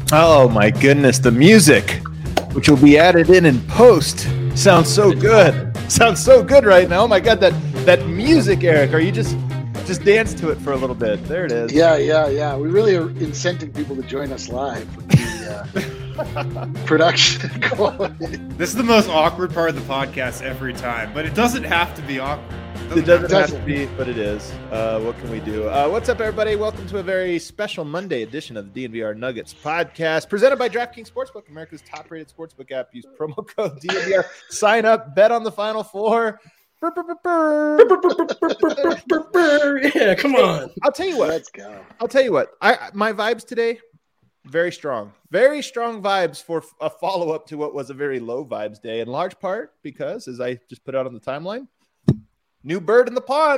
Oh my goodness, the music, which will be added in post, sounds so good. Sounds so good right now. Oh my God, that music, Eric. Are you just dance to it for a little bit? There it is. Yeah. We really are incenting people to join us live with the production quality. This is the most awkward part of the podcast every time, but it doesn't have to be awkward. It doesn't have to be, but it is. What can we do? What's up, everybody? Welcome to a very special Monday edition of the DNVR Nuggets podcast, presented by DraftKings Sportsbook, America's top-rated sportsbook app. Use promo code DNVR. Sign up, bet on the Final Four. Yeah, come on. I'll tell you what. Let's go. I'll tell you what. My vibes today, very strong. Very strong vibes for a follow-up to what was a very low vibes day, in large part because, as I just put out on the timeline, new bird in the pond.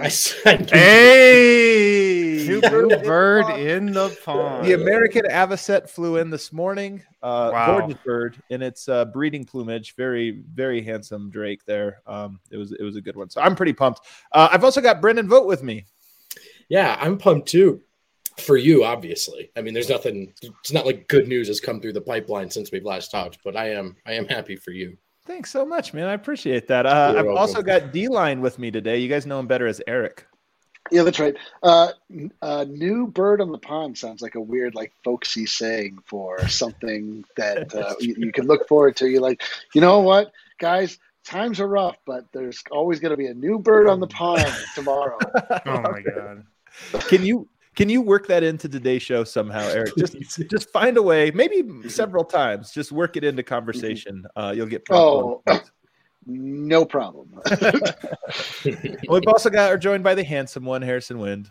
Hey! New bird in the pond. The American avocet flew in this morning. Wow. Gorgeous bird in its breeding plumage. Very, very handsome drake there. It was a good one. So I'm pretty pumped. I've also got Brendan Vogt with me. Yeah, I'm pumped too. For you, obviously. I mean, there's nothing. It's not like good news has come through the pipeline since we've last talked, but I am happy for you. Thanks so much, man. I appreciate that. I've also got D-Line with me today. You guys know him better as Eric. Yeah, that's right. New bird on the pond sounds like a weird, like, folksy saying for something that you can look forward to. You're like, you know what, guys? Times are rough, but there's always going to be a new bird on the pond tomorrow. Oh, my God. Can you work that into today's show somehow, Eric? Just find a way, maybe several times. Just work it into conversation. You'll get. No problem. We've also are joined by the handsome one, Harrison Wind.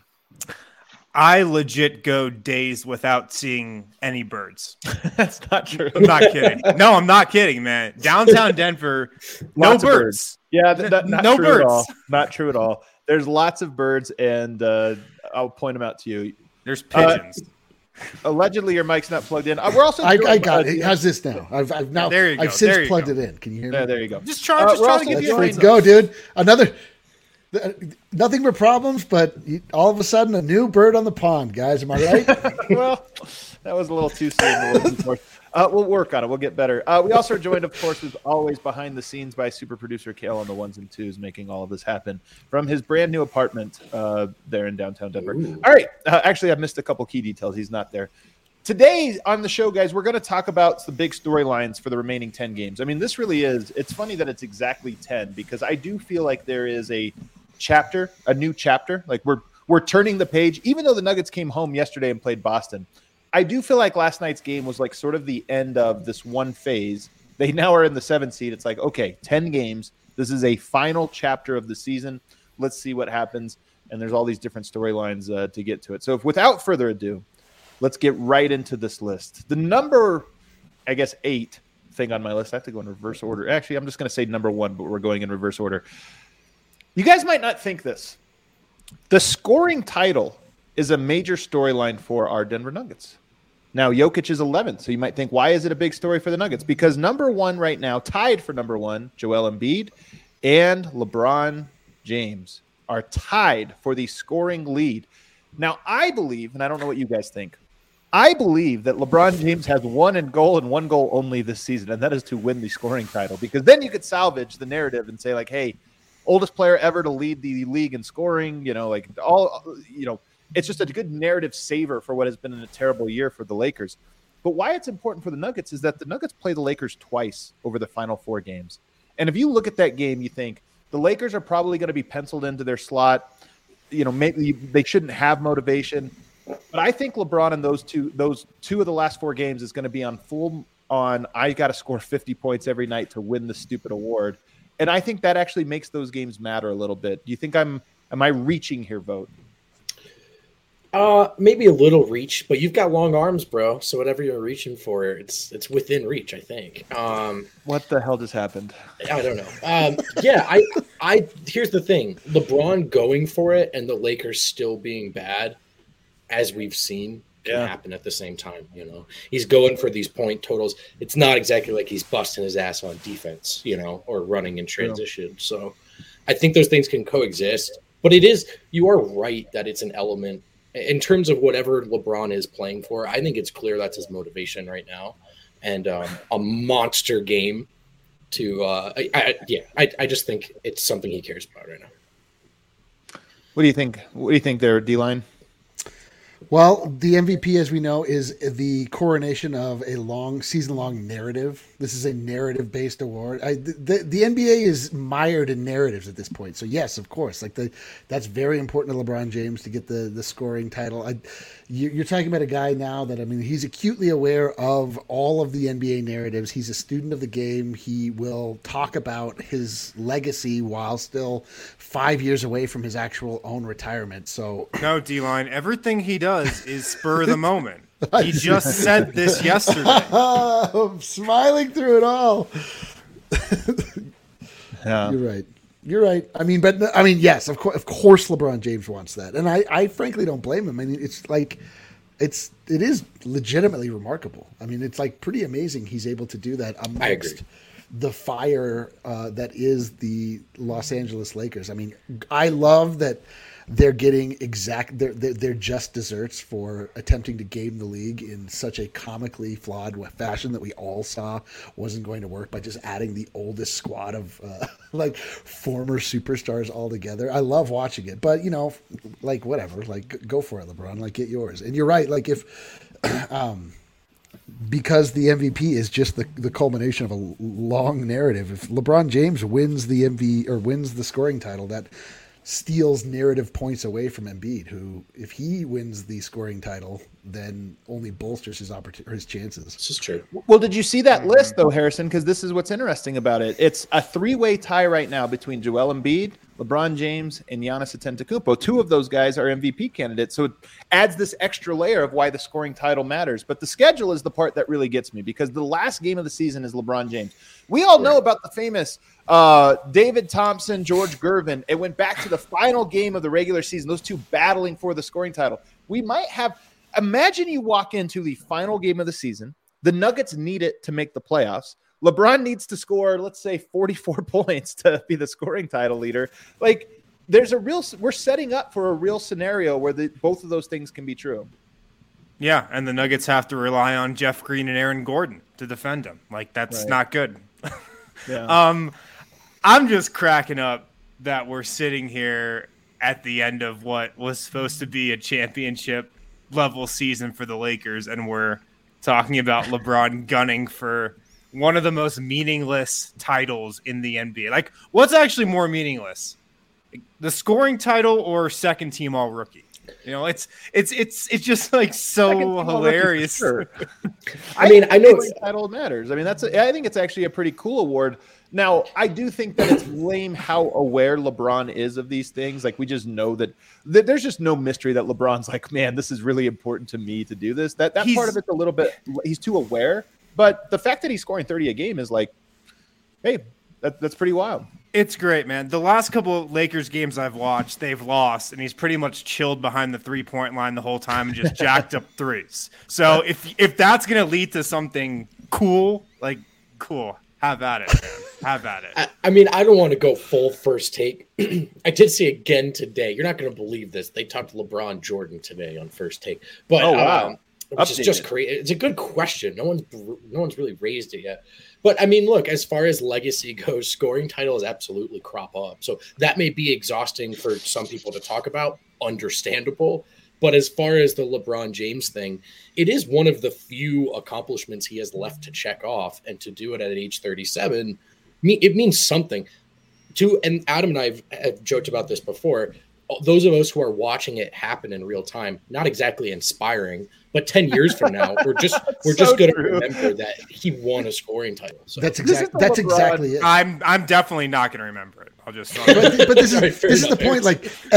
I legit go days without seeing any birds. That's not true. I'm not kidding. No, I'm not kidding, man. Downtown Denver, no birds. Yeah, not no true birds. At all. Not true at all. There's lots of birds, and I'll point them out to you. There's pigeons. Allegedly, your mic's not plugged in. We're also. I got it. How's this now? I've now. There you go. I've since There you plugged go. it in. Can you hear me? There you go. Just trying to give you Let's go, dude. Nothing but problems, but all of a sudden, a new bird on the pond, guys. Am I right? Well, that was a little too soon. We'll work on it. We'll get better. We also are joined, of course, as always, behind the scenes by super producer Kale on the ones and twos, making all of this happen from his brand new apartment there in downtown Denver. Ooh. All right. Actually, I've missed a couple key details. He's not there. Today on the show, guys, we're going to talk about the big storylines for the remaining 10 games. I mean, this really is. It's funny that it's exactly 10 because I do feel like there is a new chapter. Like we're turning the page, even though the Nuggets came home yesterday and played Boston. I do feel like last night's game was like sort of the end of this one phase. They now are in the 7th seed. It's like, okay, 10 games. This is a final chapter of the season. Let's see what happens. And there's all these different storylines to get to it. So without further ado, let's get right into this list. The number, 8 thing on my list. I have to go in reverse order. Actually, I'm just going to say number 1, but we're going in reverse order. You guys might not think this. The scoring title is a major storyline for our Denver Nuggets. Now, Jokic is 11th, so you might think, why is it a big story for the Nuggets? Because number 1 right now, tied for number 1, Joel Embiid and LeBron James are tied for the scoring lead. Now, I believe, and I don't know what you guys think, I believe that LeBron James has one goal and one goal only this season, and that is to win the scoring title. Because then you could salvage the narrative and say, like, hey, oldest player ever to lead the league in scoring, it's just a good narrative saver for what has been a terrible year for the Lakers. But why it's important for the Nuggets is that the Nuggets play the Lakers twice over the final 4 games. And if you look at that game, you think the Lakers are probably going to be penciled into their slot. Maybe they shouldn't have motivation. But I think LeBron in those two of the last 4 games is going to be on I got to score 50 points every night to win the stupid award. And I think that actually makes those games matter a little bit. Do you think am I reaching here, Vote? Maybe a little reach, but you've got long arms, bro. So whatever you're reaching for, it's within reach, I think. What the hell just happened? I don't know. I here's the thing: LeBron going for it and the Lakers still being bad, as we've seen, can happen at the same time. He's going for these point totals. It's not exactly like he's busting his ass on defense, or running in transition. Yeah. So I think those things can coexist. But you are right that it's an element In terms of whatever LeBron is playing for, I think it's clear that's his motivation right now, and a monster game. I just think it's something he cares about right now. What do you think? What do you think there, D-Line? Well, the MVP, as we know, is the coronation of a season-long narrative. This is a narrative-based award. The NBA is mired in narratives at this point. So yes, of course, that's very important to LeBron James to get the scoring title. You're talking about a guy now that, I mean, he's acutely aware of all of the NBA narratives. He's a student of the game. He will talk about his legacy while still 5 years away from his actual own retirement. So no, D-Line, everything he does is spur of the moment. He just said this yesterday. I'm smiling through it all. Yeah. You're right. I mean, yes, of course, LeBron James wants that, and I frankly don't blame him. I mean, it is legitimately remarkable. I mean, it's like pretty amazing he's able to do that amongst the fire that is the Los Angeles Lakers. I mean, I love that they're getting they're just desserts for attempting to game the league in such a comically flawed fashion that we all saw wasn't going to work by just adding the oldest squad of former superstars all together. I love watching it, but whatever, go for it, LeBron, get yours. And you're right. If because the MVP is just the culmination of a long narrative. If LeBron James wins the wins the scoring title, that steals narrative points away from Embiid, who, if he wins the scoring title, then only bolsters his chances. This is true. Well, did you see that list, though, Harrison? Because this is what's interesting about it. It's a three-way tie right now between Joel Embiid, LeBron James, and Giannis Antetokounmpo. Two of those guys are MVP candidates, so it adds this extra layer of why the scoring title matters. But the schedule is the part that really gets me, because the last game of the season is LeBron James. We all know about the famous David Thompson, George Gervin. It went back to the final game of the regular season, those two battling for the scoring title. We might have – imagine you walk into the final game of the season. The Nuggets need it to make the playoffs. LeBron needs to score, let's say, 44 points to be the scoring title leader. We're setting up for a real scenario where both of those things can be true. Yeah, and the Nuggets have to rely on Jeff Green and Aaron Gordon to defend him. That's not good. Yeah. I'm just cracking up that we're sitting here at the end of what was supposed to be a championship level season for the Lakers, and we're talking about LeBron gunning for one of the most meaningless titles in the NBA. What's actually more meaningless? The scoring title or second team all rookie? It's just so hilarious. Sure. I mean, I know title matters. I mean, I think it's actually a pretty cool award. Now, I do think that it's lame how aware LeBron is of these things. We just know that there's just no mystery that LeBron's man, this is really important to me to do this. That part of it's a little bit, he's too aware. But the fact that he's scoring 30 a game is hey, that's pretty wild. It's great, man. The last couple of Lakers games I've watched, they've lost, and he's pretty much chilled behind the three-point line the whole time and just jacked up threes. So if that's going to lead to something cool, cool, have at it, man. Have at it. I mean, I don't want to go full first take. I did see again today. You're not going to believe this. They talked to LeBron Jordan today on First Take. But, wow. Which is just crazy. It's a good question. No one's really raised it yet. But I mean, look, as far as legacy goes, scoring titles absolutely crop up. So that may be exhausting for some people to talk about. Understandable. But as far as the LeBron James thing, it is one of the few accomplishments he has left to check off, and to do it at age 37, it means something. And Adam and I have joked about this before. Those of us who are watching it happen in real time, not exactly inspiring, but 10 years from now, we're just going to remember that he won a scoring title. So. That's exactly it. I'm definitely not going to remember it. I'll just. But this is the point.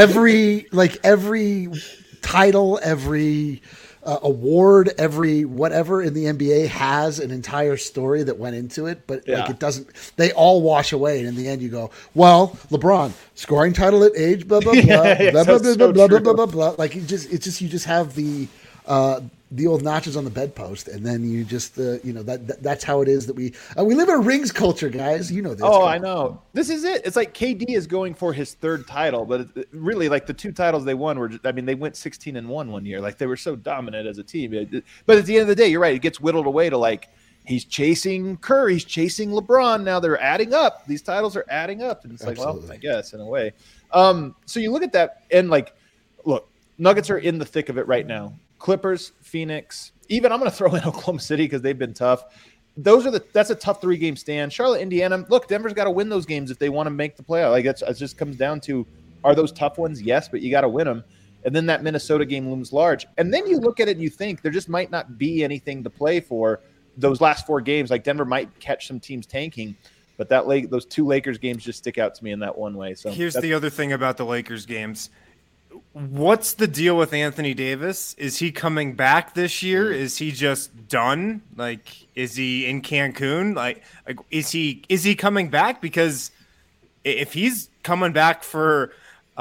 Every title, every award, every whatever in the NBA has an entire story that went into it, but it doesn't. They all wash away, and in the end, you go, "Well, LeBron scoring title at age blah blah blah blah blah blah blah blah blah blah blah." You just have the the old notches on the bedpost, and then you just that's how it is that we live in a rings culture, guys. You know this. Oh, I know. This is it. It's like KD is going for his third title, but really, like the 2 titles they won were. They went 16-1 one year. Like they were so dominant as a team. But at the end of the day, you're right. It gets whittled away to like he's chasing Curry, he's chasing LeBron. Now they're adding up. These titles are adding up, and it's Absolutely. like, well, I guess in a way. So you look at that, and like, look, Nuggets are in the thick of it right now. Clippers, Phoenix, even I'm going to throw in Oklahoma City because they've been tough. That's a tough 3-game stand. Charlotte, Indiana. Look, Denver's got to win those games if they want to make the playoff. Like it just comes down to, are those tough ones? Yes, but you got to win them. And then that Minnesota game looms large. And then you look at it and you think there just might not be anything to play for those last 4 games. Like Denver might catch some teams tanking, but those 2 Lakers games just stick out to me in that one way. So here's the other thing about the Lakers games. What's the deal with Anthony Davis? Is he coming back this year? Is he just done? Like, is he in Cancun? Like is he coming back? Because if he's coming back for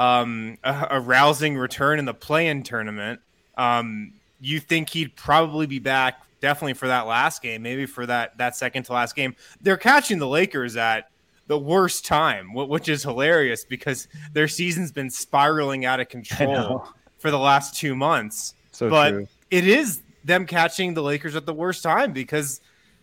a rousing return in the play-in tournament, you think he'd probably be back definitely for that last game, maybe for that second to last game. They're catching the Lakers at the worst time, which is hilarious because their season's been spiraling out of control for the last 2 months. But true. It is them catching the Lakers at the worst time because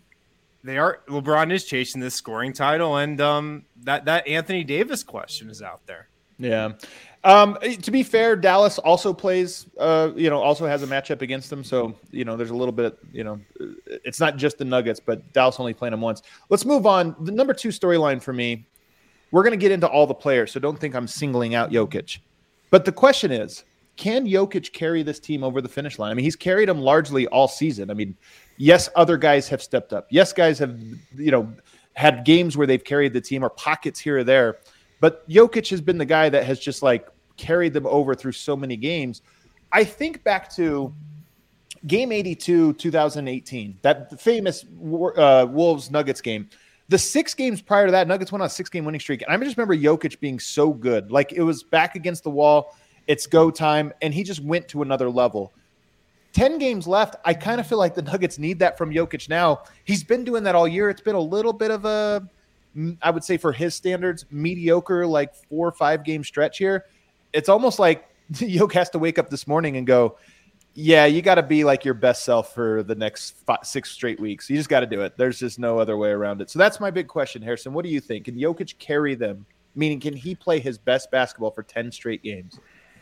LeBron is chasing this scoring title, and that Anthony Davis question is out there. Yeah. To be fair, Dallas also plays, also has a matchup against them. So, there's a little bit, it's not just the Nuggets, but Dallas only playing them once. Let's move on. The number 2 storyline for me, we're going to get into all the players, so don't think I'm singling out Jokic. But the question is, can Jokic carry this team over the finish line? I mean, he's carried them largely all season. I mean, yes, other guys have stepped up. Yes, guys have, had games where they've carried the team or pockets here or there. But Jokic has been the guy that has just like carried them over through so many games. I think back to game 82, 2018, that famous Wolves-Nuggets game. The 6 games prior to that, Nuggets went on a 6-game winning streak. And I just remember Jokic being so good. Like it was back against the wall. It's go time. And he just went to another level. 10 games left. I kind of feel like the Nuggets need that from Jokic now. He's been doing that all year. It's been a little bit of a, I would say for his standards, mediocre, like 4 or 5 game stretch here. It's almost like Jokic has to wake up this morning and go, yeah, you got to be like your best self for the next 6 straight weeks. You just got to do it. There's just no other way around it. So that's my big question, Harrison. What do you think? Can Jokic carry them? Meaning, can he play his best basketball for 10 straight games?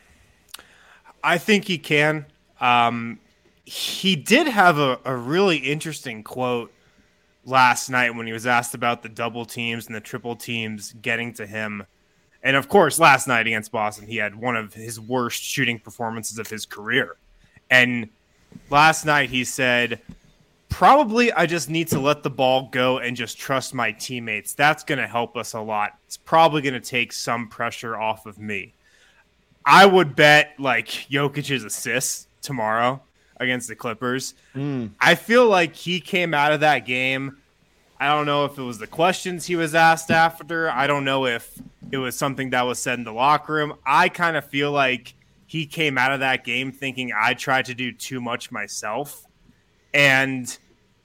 I think he can. He did have a really interesting quote last night when he was asked about the double teams and the triple teams getting to him. And of course, last night against Boston, he had one of his worst shooting performances of his career. And last night he said, probably I just need to let the ball go and just trust my teammates. That's going to help us a lot. It's probably going to take some pressure off of me. I would bet like Jokic's assists tomorrow against the Clippers. I feel like he came out of that game. I don't know if it was the questions he was asked after. I don't know if it was something that was said in the locker room. I kind of feel like he came out of that game thinking I tried to do too much myself. And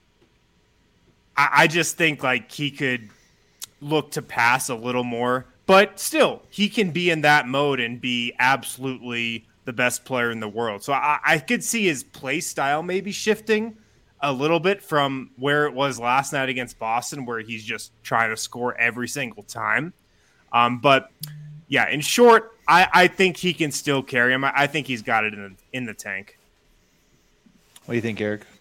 I just think like he could look to pass a little more. But still, he can be in that mode and be absolutely the best player in the world. So I could see his play style maybe shifting a little bit from where it was last night against Boston, where he's just trying to score every single time. But yeah, in short, I think he can still carry him. I think he's got it in the tank. What do you think, Eric?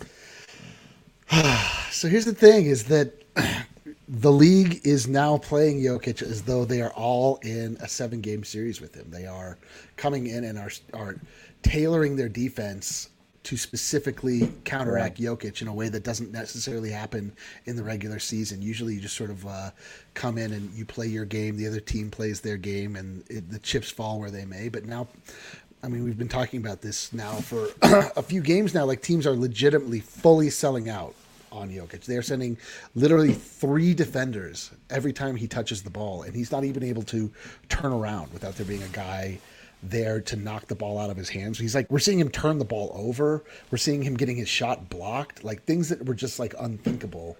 So here's the thing is that the league is now playing Jokic as though they are all in a 7-game series with him. They are coming in and are tailoring their defense to specifically counteract Jokic in a way that doesn't necessarily happen in the regular season. Usually you just sort of come in and you play your game, the other team plays their game, and the chips fall where they may. But now, I mean, we've been talking about this now for a few games now, like teams are legitimately fully selling out on Jokic. They're sending literally 3 defenders every time he touches the ball, and he's not even able to turn around without there being a guy there to knock the ball out of his hands. He's like, we're seeing him turn the ball over. We're seeing him getting his shot blocked, like things that were just like unthinkable,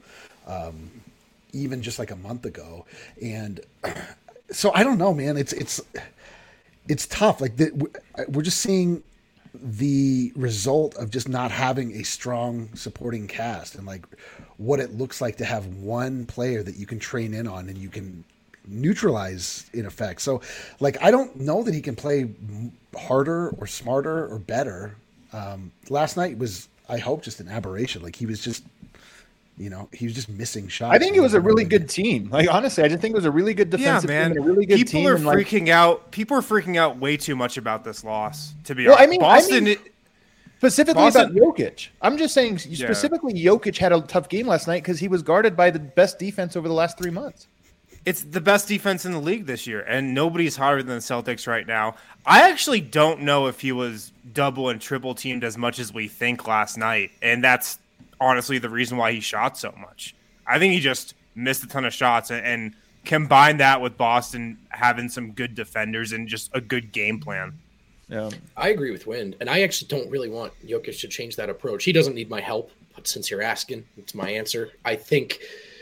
even just like a month ago. And so I don't know, man. It's tough. Like we're just seeing the result of just not having a strong supporting cast, and like what it looks like to have one player that you can train in on and you can neutralize in effect. So like, I don't know that he can play harder or smarter or better. Last night was, I hope, just an aberration. Like he was just missing shots. I think it was a really good team. Like, honestly, I just think it was a really good defensive team and a really good team. People are freaking out way too much about this loss, to be honest. Boston, specifically about Jokic. I'm just saying specifically Jokic had a tough game last night because he was guarded by the best defense over the last 3 months. It's the best defense in the league this year, and nobody's hotter than the Celtics right now. I actually don't know if he was double and triple teamed as much as we think last night, and that's honestly the reason why he shot so much. I think he just missed a ton of shots, and combine that with Boston having some good defenders and just a good game plan. Yeah, I agree with Wind, and I actually don't really want Jokic to change that approach. He doesn't need my help, but since you're asking, it's my answer. I think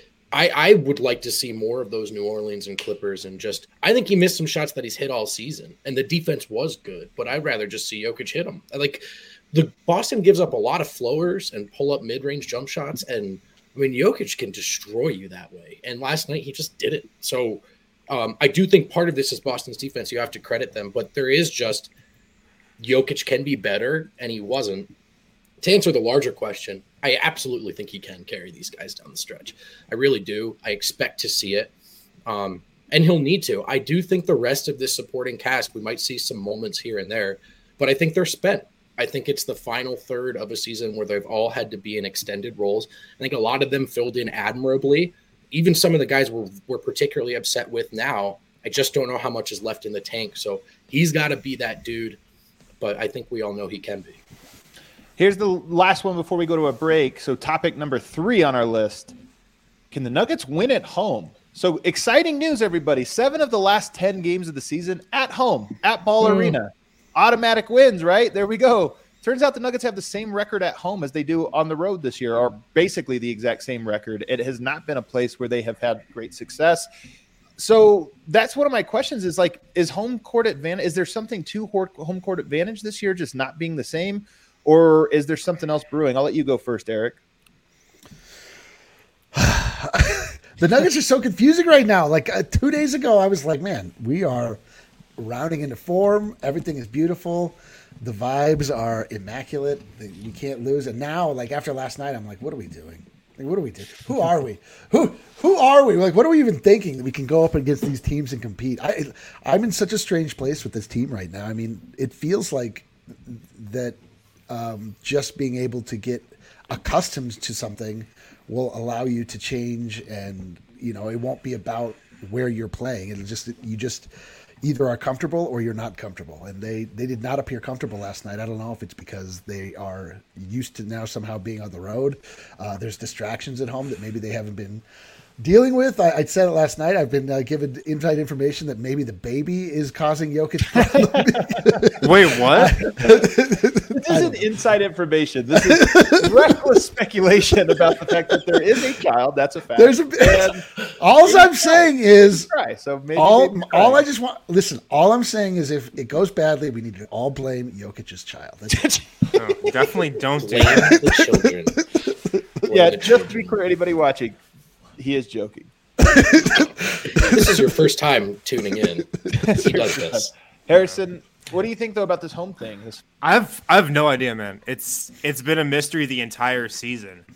I would like to see more of those New Orleans and Clippers, and just I think he missed some shots that he's hit all season, and the defense was good, but I'd rather just see Jokic hit them. Like, the Boston gives up a lot of floaters and pull up mid-range jump shots, and I mean Jokic can destroy you that way. And last night he just did it. So I do think part of this is Boston's defense. You have to credit them, but there is just Jokic can be better, and he wasn't. To answer the larger question, I absolutely think he can carry these guys down the stretch. I really do. I expect to see it, and he'll need to. I do think the rest of this supporting cast, we might see some moments here and there, but I think they're spent. I think it's the final third of a season where they've all had to be in extended roles. I think a lot of them filled in admirably. Even some of the guys we're particularly upset with now, I just don't know how much is left in the tank. So he's got to be that dude, but I think we all know he can be. Here's the last one before we go to a break. So topic number 3 on our list. Can the Nuggets win at home? So exciting news, everybody. 7 of the last 10 games of the season at home, at Ball Arena. Automatic wins, right? There we go. Turns out the Nuggets have the same record at home as they do on the road this year, or basically the exact same record. It has not been a place where they have had great success. So that's one of my questions is like, is home court advantage, is there something to home court advantage this year just not being the same? Or is there something else brewing? I'll let you go first, Eric. The Nuggets are so confusing right now. Like 2 days ago, I was like, man, we are rounding into form. Everything is beautiful. The vibes are immaculate. We can't lose. And now, like after last night, I'm like, what are we doing? Like, what do we do? Who are we? Who are we? Like, what are we even thinking that we can go up against these teams and compete? I'm in such a strange place with this team right now. I mean, it feels like that just being able to get accustomed to something will allow you to change, and it won't be about where you're playing. It'll just you just either are comfortable or you're not comfortable, and they did not appear comfortable last night. I don't know if it's because they are used to now somehow being on the road. There's distractions at home that maybe they haven't been dealing with. I said it last night. I've been given inside information that maybe the baby is causing Jokic problems. Wait, what? This isn't inside information. This is reckless speculation about the fact that there is a child. That's a fact. All I'm saying is so maybe all I just want. Listen, all I'm saying is if it goes badly, we need to all blame Jokic's child. No, definitely don't do that. Children. Yeah, just to be clear, anybody watching, he is joking. This is your first time tuning in. He does this. Harrison, what do you think though about this home thing? I have no idea, man. It's been a mystery the entire season.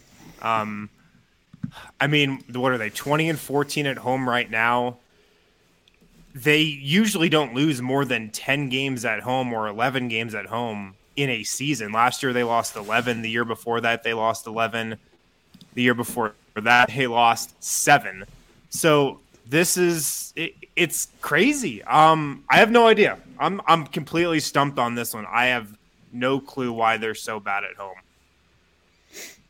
I mean, what are they? 20-14 at home right now. They usually don't lose more than 10 games at home or 11 games at home in a season. Last year they lost 11. The year before that they lost 11. The year before that they lost 7. So this is it's crazy. I have no idea. I'm completely stumped on this one. I have no clue why they're so bad at home.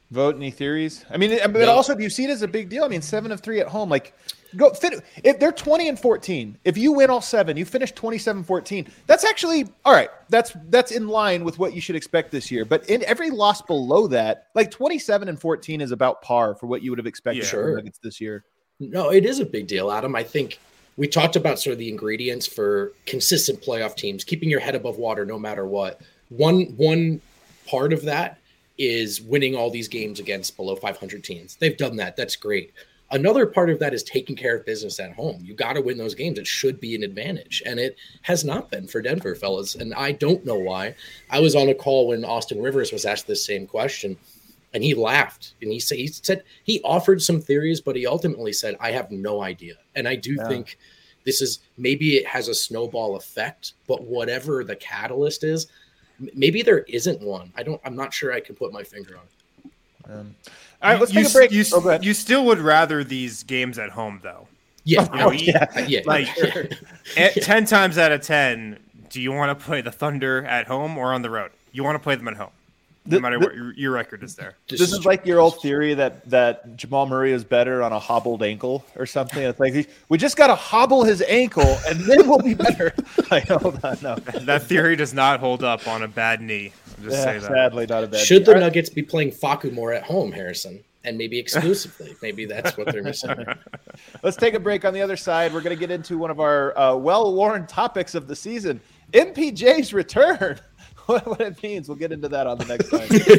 Vote any theories? I mean, but No. also, do you see it as a big deal? I mean, 7 of 3 at home. Like, go fit. If they're 20-14, if you win all 7, you finish 27-14. That's actually all right. That's in line with what you should expect this year. But in every loss below that, like 27-14 is about par for what you would have expected from the Nuggets this year. No, it is a big deal, Adam. I think we talked about sort of the ingredients for consistent playoff teams, keeping your head above water no matter what. One part of that is winning all these games against below 500 teams. They've done that. That's great. Another part of that is taking care of business at home. You got to win those games. It should be an advantage. And it has not been for Denver, fellas. And I don't know why. I was on a call when Austin Rivers was asked this same question, and he laughed. And he said he offered some theories, but he ultimately said, I have no idea. And I do think this is, maybe it has a snowball effect, but whatever the catalyst is, maybe there isn't one. I'm not sure I can put my finger on it. All right, let's take a break. You still would rather these games at home, though. Yeah. Yeah. Like 10 times out of 10, do you want to play the Thunder at home or on the road? You want to play them at home, no matter what your record is there. This is like your old theory that Jamal Murray is better on a hobbled ankle or something. It's like we just got to hobble his ankle and then we'll be better. Like, hold on, no. That theory does not hold up on a bad knee. Just say that. Sadly, not a bad. Should the Nuggets be playing Facu more at home, Harrison, and maybe exclusively? Maybe that's what they're missing. Let's take a break. On the other side, we're going to get into one of our well-worn topics of the season: MPJ's return. What it means. We'll get into that on the next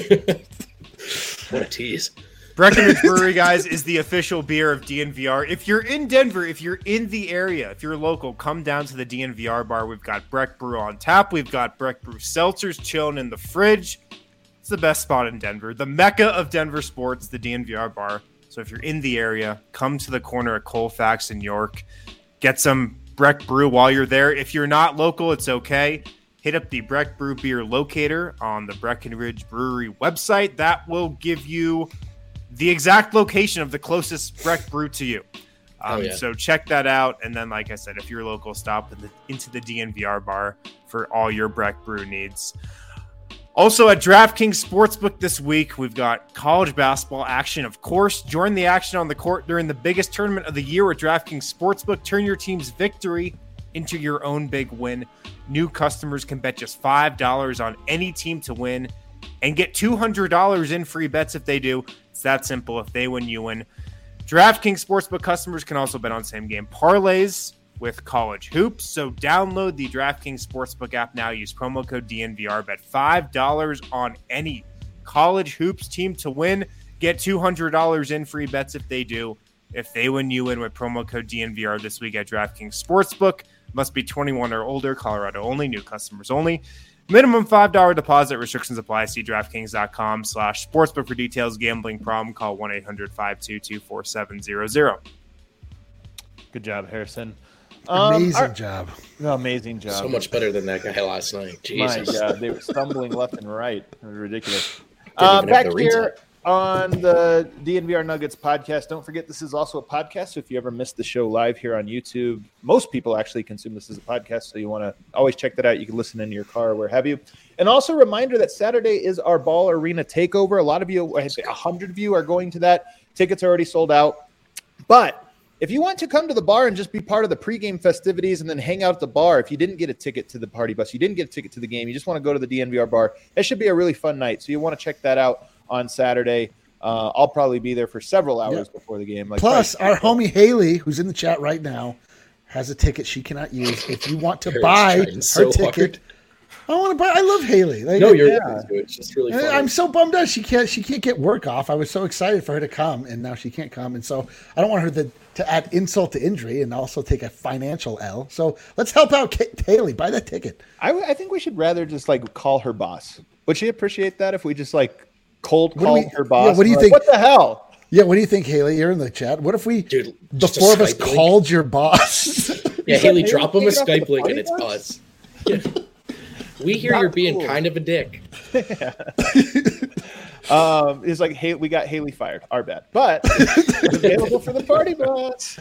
time. What a tease. Breckenridge Brewery, guys, is the official beer of DNVR. If you're in Denver, if you're in the area, if you're local, come down to the DNVR bar. We've got Breck Brew on tap. We've got Breck Brew seltzers chilling in the fridge. It's the best spot in Denver. The mecca of Denver sports, the DNVR bar. So if you're in the area, come to the corner at Colfax and York. Get some Breck Brew while you're there. If you're not local, it's okay. Hit up the Breck Brew beer locator on the Breckenridge Brewery website. That will give you the exact location of the closest Breck Brew to you. So check that out. And then, like I said, if you're local, stop into the DNVR bar for all your Breck Brew needs. Also at DraftKings Sportsbook this week, we've got college basketball action, of course. Join the action on the court during the biggest tournament of the year with DraftKings Sportsbook. Turn your team's victory into your own big win. New customers can bet just $5 on any team to win and get $200 in free bets if they do. It's that simple. If they win, you win. DraftKings Sportsbook customers can also bet on same-game parlays with college hoops. So download the DraftKings Sportsbook app now. Use promo code DNVR. Bet $5 on any college hoops team to win. Get $200 in free bets if they do. If they win, you win with promo code DNVR this week at DraftKings Sportsbook. Must be 21 or older. Colorado only. New customers only. Minimum $5 deposit. Restrictions apply. See DraftKings.com/sportsbook for details. Gambling problem? Call 1-800-522-4700. Good job, Harrison. Amazing job. Amazing job. So much better than that guy last night. Jesus. My God, they were stumbling left and right. It was ridiculous. Didn't even have Back the here reset. on the DNVR Nuggets podcast. Don't forget, this is also a podcast. So if you ever missed the show live here on YouTube, most people actually consume this as a podcast. So you want to always check that out. You can listen in your car or where have you. And also a reminder that Saturday is our Ball Arena takeover. A lot of you, I say 100 of you, are going to that. Tickets are already sold out. But if you want to come to the bar and just be part of the pregame festivities and then hang out at the bar, if you didn't get a ticket to the party bus, you didn't get a ticket to the game, you just want to go to the DNVR bar, it should be a really fun night. So you want to check that out on Saturday. I'll probably be there for several hours before the game. Plus, our homie Haley, who's in the chat right now, has a ticket she cannot use. If you want to buy her ticket, I want to buy. I love Haley. Like, No, you're right. It's just really funny. I'm so bummed out. She can't get work off. I was so excited for her to come, and now she can't come. And so I don't want her to add insult to injury and also take a financial L. So let's help out Haley. Buy that ticket. I think we should rather just call her boss. Would she appreciate that if we just cold call her boss? Yeah, what do you think? What the hell? Yeah, what do you think, Haley? You're in the chat. What if the four of us called your boss? Yeah, Haley, drop him a Skype link and it's us. Yeah. We hear you're being kind of a dick. It's like, hey, we got Haley fired. Our bad. But available for the party bus.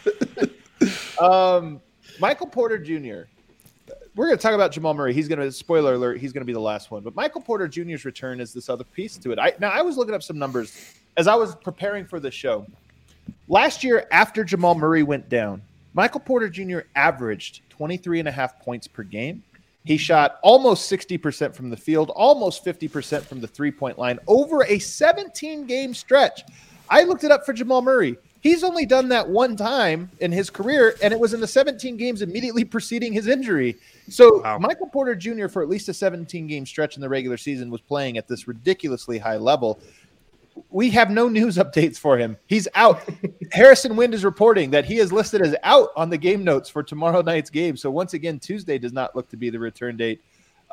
Michael Porter Jr. We're going to talk about Jamal Murray. Spoiler alert, he's going to be the last one. But Michael Porter Jr.'s return is this other piece to it. I was looking up some numbers as I was preparing for the show, last year after Jamal Murray went down, Michael Porter Jr. averaged 23.5 points per game. He shot almost 60% from the field, almost 50% from the three-point line over a 17-game stretch. I looked it up for Jamal Murray. He's only done that one time in his career, and it was in the 17 games immediately preceding his injury. So Michael Porter Jr., for at least a 17-game stretch in the regular season, was playing at this ridiculously high level. We have no news updates for him. He's out. Harrison Wind is reporting that he is listed as out on the game notes for tomorrow night's game. So once again, Tuesday does not look to be the return date.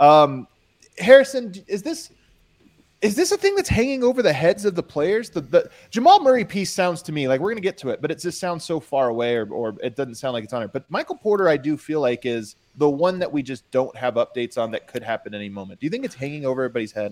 Harrison, is this a thing that's hanging over the heads of the players? The Jamal Murray piece sounds to me like we're going to get to it, but it just sounds so far away, or it doesn't sound like it's on it. But Michael Porter, I do feel like, is the one that we just don't have updates on that could happen any moment. Do you think it's hanging over everybody's head?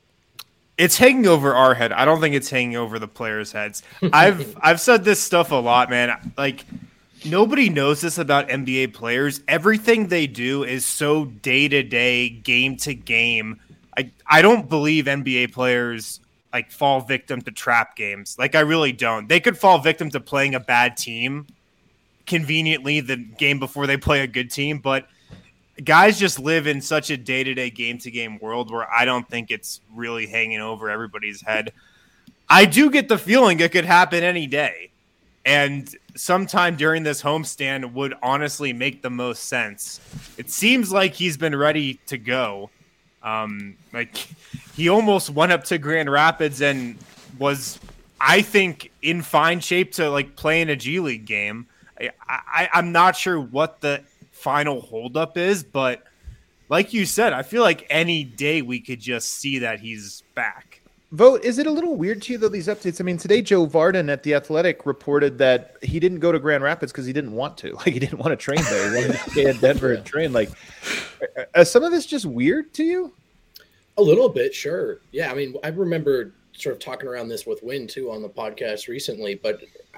It's hanging over our head. I don't think it's hanging over the players' heads. I've said this stuff a lot, man. Like, nobody knows this about NBA players. Everything they do is so day-to-day, game-to-game. I don't believe NBA players like fall victim to trap games. Like, I really don't. They could fall victim to playing a bad team conveniently the game before they play a good team, but guys just live in such a day-to-day, game-to-game world where I don't think it's really hanging over everybody's head. I do get the feeling it could happen any day, and sometime during this homestand would honestly make the most sense. It seems like he's been ready to go. Like, he almost went up to Grand Rapids and was, I think, in fine shape to like play in a G League game. I'm not sure what the final holdup is, but like you said, I feel like any day we could just see that he's back. Vote, is it a little weird to you, though, these updates? I mean, today Joe Varden at The Athletic reported that he didn't go to Grand Rapids because he didn't want to. Like, he didn't want to train there. He wanted to stay in Denver and train. Like, is some of this just weird to you? A little bit, sure. Yeah, I mean, I remember sort of talking around this with Wynn, too, on the podcast recently, but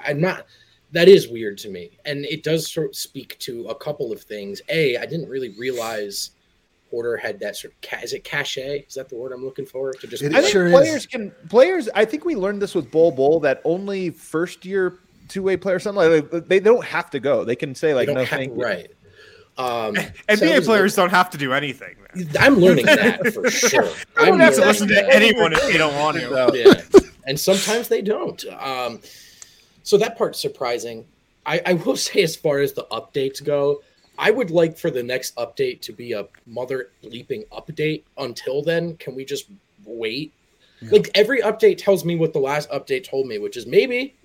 that is weird to me. And it does sort of speak to a couple of things. A, I didn't really realize Porter had that sort of, is it cachet? Is that the word I'm looking for? To just, I think players, I think we learned this with Bol that only first year two-way players, something like that, they don't have to go. They can say like, no, thank you. Right. NBA players don't have to do anything. Man. I'm learning that for sure. I don't have to listen to anyone if they don't want to. Yeah. And sometimes they don't. So that part's surprising. I will say, as far as the updates go, I would like for the next update to be a mother bleeping update. Until then, can we just wait? Yeah. Like, every update tells me what the last update told me, which is maybe.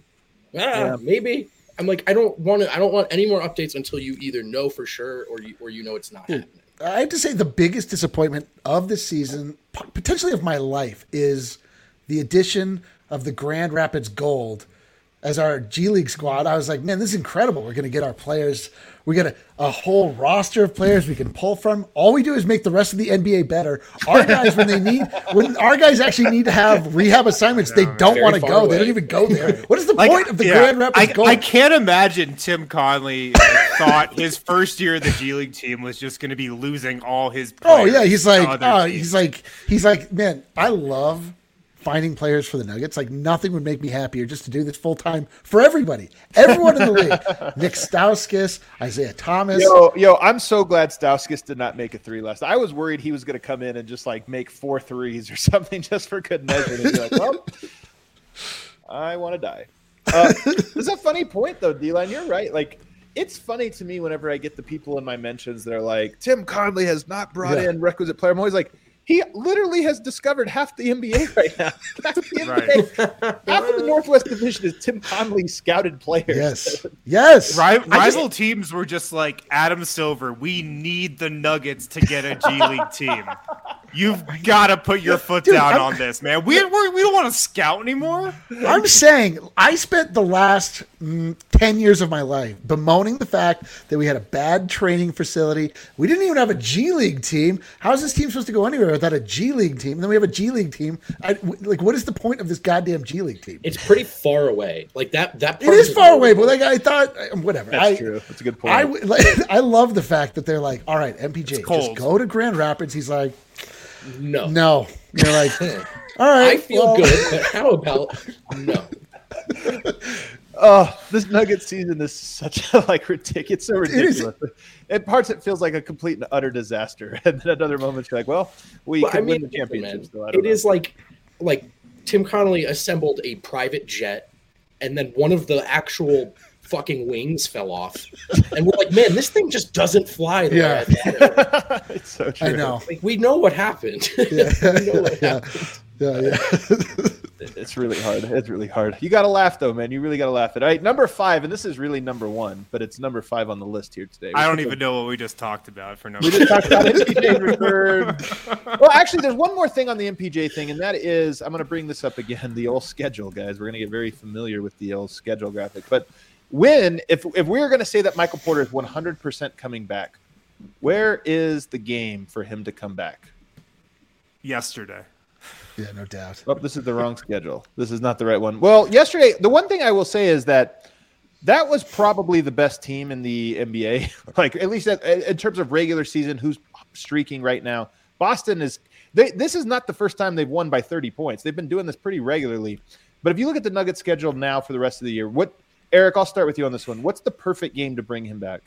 I'm like, I don't want any more updates until you either know for sure or you know it's not happening. I have to say the biggest disappointment of this season, potentially of my life, is the addition of the Grand Rapids Gold as our G League squad. I was like, man, this is incredible. We're going to get our players. We get a whole roster of players we can pull from. All we do is make the rest of the NBA better. Our guys, when our guys actually need to have rehab assignments, they don't want to go. They don't even go there. What is the point of the Grand Rapids Gold? I can't imagine Tim Conley thought his first year of the G League team was just going to be losing all his players. Oh yeah, he's like, man, I love finding players for the Nuggets. Like, nothing would make me happier just to do this full time for everybody. Everyone in the league. Nick Stauskas, Isaiah Thomas. Yo, I'm so glad Stauskas did not make a three last. I was worried he was going to come in and just like make 4 threes or something just for good measure. And be like, well, I want to die. It's a funny point though, D-Line. You're right. Like, it's funny to me whenever I get the people in my mentions, they're like, Tim Conley has not brought in requisite player. I'm always like, he literally has discovered half the NBA right now. Half of the Northwest Division is Tim Conley scouted players. Yes. Rival teams were just like, Adam Silver, we need the Nuggets to get a G League team. You've got to put your foot down on this, man. We don't want to scout anymore. I'm saying I spent the last 10 years of my life bemoaning the fact that we had a bad training facility. We didn't even have a G League team. How is this team supposed to go anywhere without a G League team? And then we have a G League team. What is the point of this goddamn G League team? It's pretty far away. Like that part it is far away, but like I thought, whatever. That's true. That's a good point. I love the fact that they're like, all right, MPJ, just go to Grand Rapids. He's like, no. You're like, All right. I feel good, but how about no? Oh, this Nugget season is such a ridiculous. It's so ridiculous. At parts, it feels like a complete and utter disaster, and then at other moments, you're like, "Well, we could win the championship." So it is like Tim Connolly assembled a private jet, and then one of the actual fucking wings fell off, and we're like, "Man, this thing just doesn't fly." It's so true. I know. We know what happened. Yeah. We know what happened. Yeah. It's really hard. It's really hard. You got to laugh, though, man. You really got to laugh. All right, number 5, and this is really number 1, but it's number 5 on the list here today. I don't even know what we just talked about for number. We just talked about MPJ return. Well, actually, there's one more thing on the MPJ thing, and that is, I'm going to bring this up again, the old schedule, guys. We're going to get very familiar with the old schedule graphic. But if we were going to say that Michael Porter is 100% coming back, where is the game for him to come back? Yesterday. Yeah, no doubt. Oh, this is the wrong schedule. This is not the right one. Well, yesterday, the one thing I will say is that was probably the best team in the NBA. At least in terms of regular season, who's streaking right now. Boston is this is not the first time they've won by 30 points. They've been doing this pretty regularly. But if you look at the Nuggets schedule now for the rest of the year, Eric, I'll start with you on this one. What's the perfect game to bring him back?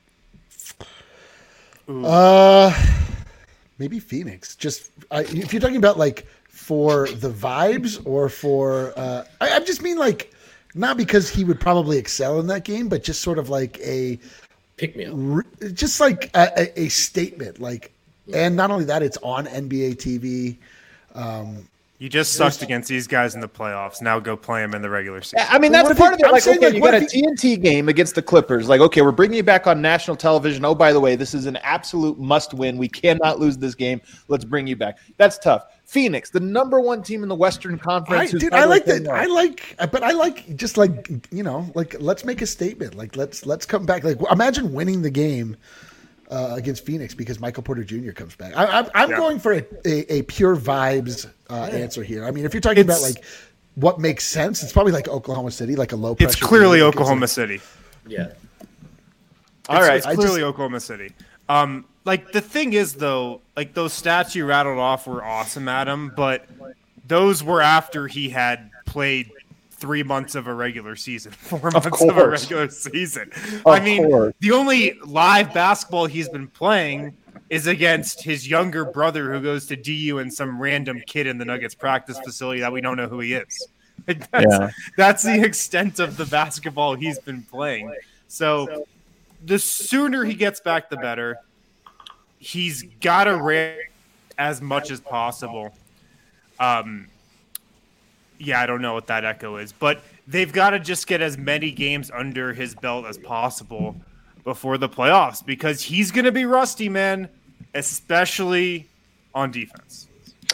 Maybe Phoenix. Just if you're talking about for the vibes or for I just mean not because he would probably excel in that game, but just sort of a pick me up, just a statement. And not only that, it's on NBA TV. You just sucked against these guys in the playoffs. Now go play them in the regular season. I mean, that's part of it. You got a TNT game against the Clippers. Okay, we're bringing you back on national television. Oh, by the way, this is an absolute must-win. We cannot lose this game. Let's bring you back. That's tough. Phoenix, the number 1 team in the Western Conference. I like that. I like just let's make a statement. Let's come back. Imagine winning the game against Phoenix because Michael Porter Jr. comes back. I'm going for a pure vibes answer here. I mean, if you're talking about what makes sense, it's probably Oklahoma City, a low pressure. It's clearly Oklahoma City. Yeah. It's clearly Oklahoma City. The thing is, though, those stats you rattled off were awesome, Adam, but those were after he had played 3 months of a regular season, 4 months of a regular season. The only live basketball he's been playing is against his younger brother who goes to DU and some random kid in the Nuggets practice facility that we don't know who he is. That's the extent of the basketball he's been playing. So the sooner he gets back, the better. He's got to run as much as possible. I don't know what that echo is, but they've got to just get as many games under his belt as possible before the playoffs because he's going to be rusty, man, especially on defense.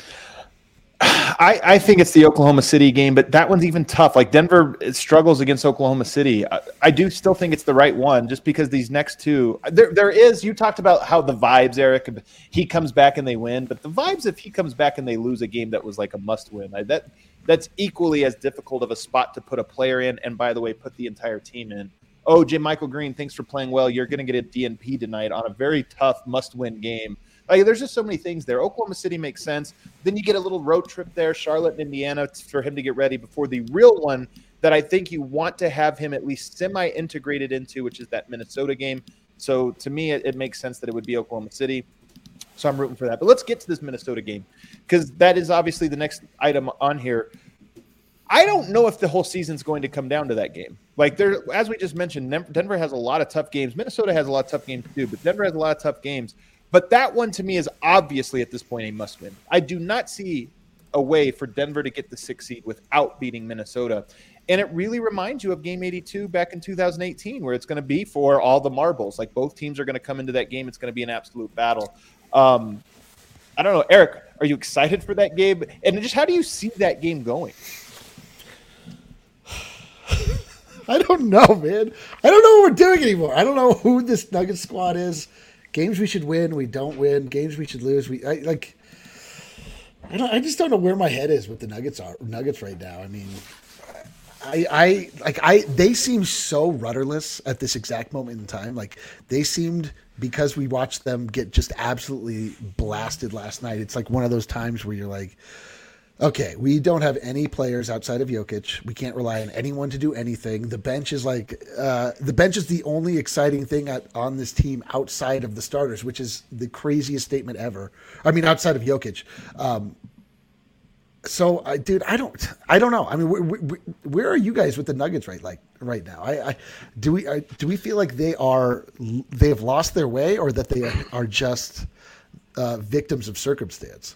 I think it's the Oklahoma City game, but that one's even tough. Denver struggles against Oklahoma City. I do still think it's the right one just because these next two there is, you talked about how the vibes, Eric, he comes back and they win, but the vibes if he comes back and they lose a game that was a must win, that's equally as difficult of a spot to put a player in and, by the way, put the entire team in. Oh, Michael Green, thanks for playing well. You're going to get a DNP tonight on a very tough must-win game. There's just so many things there. Oklahoma City makes sense. Then you get a little road trip there, Charlotte and Indiana, for him to get ready before the real one that I think you want to have him at least semi-integrated into, which is that Minnesota game. So to me, it makes sense that it would be Oklahoma City. So I'm rooting for that. But let's get to this Minnesota game because that is obviously the next item on here. I don't know if the whole season's going to come down to that game. As we just mentioned, Denver has a lot of tough games. Minnesota has a lot of tough games too, but Denver has a lot of tough games. But that one to me is obviously at this point a must-win. I do not see a way for Denver to get the 6th seed without beating Minnesota. And it really reminds you of Game 82 back in 2018 where it's going to be for all the marbles. Both teams are going to come into that game. It's going to be an absolute battle. I don't know. Eric, are you excited for that game? And just how do you see that game going? I don't know, man. I don't know what we're doing anymore. I don't know who this Nuggets squad is. Games we should win, we don't win. Games we should lose, I just don't know where my head is with the Nuggets right now. I mean, they seem so rudderless at this exact moment in time. They seemed, because we watched them get just absolutely blasted last night. It's one of those times where you're Okay, we don't have any players outside of Jokic. We can't rely on anyone to do anything. The bench is the only exciting thing on this team outside of the starters, which is the craziest statement ever. I mean, outside of Jokic. I don't know. I mean, where are you guys with the Nuggets right now? Do we feel like they've lost their way, or that they are just victims of circumstance?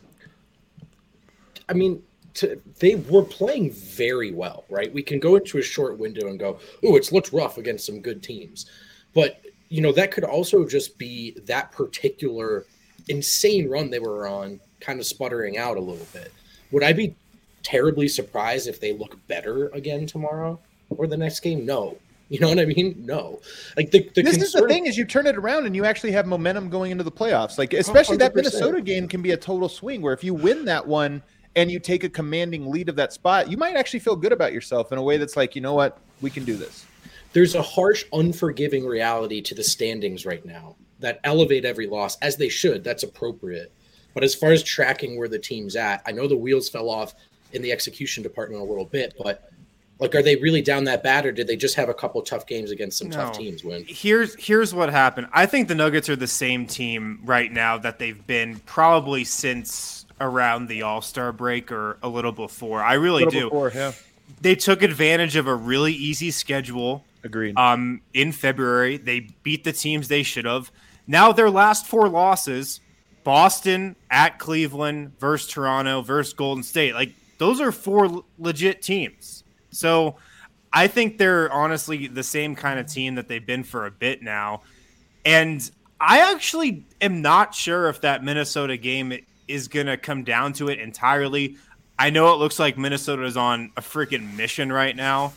I mean, they were playing very well, right? We can go into a short window and go, "Oh, it's looked rough against some good teams," but that could also just be that particular insane run they were on, kind of sputtering out a little bit. Would I be terribly surprised if they look better again tomorrow or the next game? No. You know what I mean? No. Like this is the thing, is you turn it around and you actually have momentum going into the playoffs. Like, especially 100%. That Minnesota game can be a total swing where if you win that one and you take a commanding lead of that spot, you might actually feel good about yourself in a way that's like, you know what, we can do this. There's a harsh, unforgiving reality to the standings right now that elevate every loss, as they should. That's appropriate. But as far as tracking where the team's at, I know the wheels fell off in the execution department a little bit, but are they really down that bad, or did they just have a couple tough games against some tough teams win? Here's what happened. I think the Nuggets are the same team right now that they've been probably since around the All-Star break or a little before. I really do. Before, yeah. They took advantage of a really easy schedule. Agreed. In February, they beat the teams they should have. Now their last 4 losses, Boston, at Cleveland, versus Toronto, versus Golden State. Like, those are 4 legit teams. So I think they're honestly the same kind of team that they've been for a bit now. And I actually am not sure if that Minnesota game is going to come down to it entirely. I know it looks like Minnesota is on a freaking mission right now.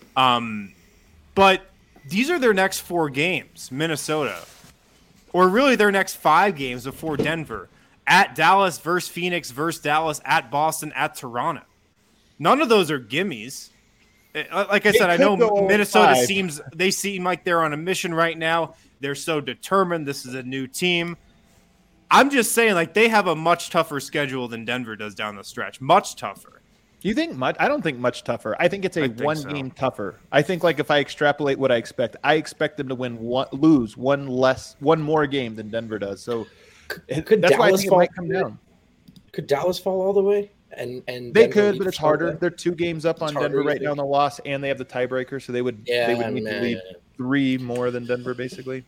But these are their next 4 games, Minnesota. Or really their next 5 games before Denver. At Dallas, versus Phoenix, versus Dallas, at Boston, at Toronto. None of those are gimmies. Like I said, I know Minnesota seem like they're on a mission right now. They're so determined. This is a new team. I'm just saying, like, they have a much tougher schedule than Denver does down the stretch. Much tougher. You think much? I don't think much tougher. I think it's game tougher. I think, like, if I extrapolate what I expect them to lose one more game than Denver does. So that's Dallas why I think it might come down. Could Dallas fall all the way? And they could, but it's harder. They're 2 games up on Denver right now in the loss, and they have the tiebreaker, so they would need to lead 3 more than Denver, basically.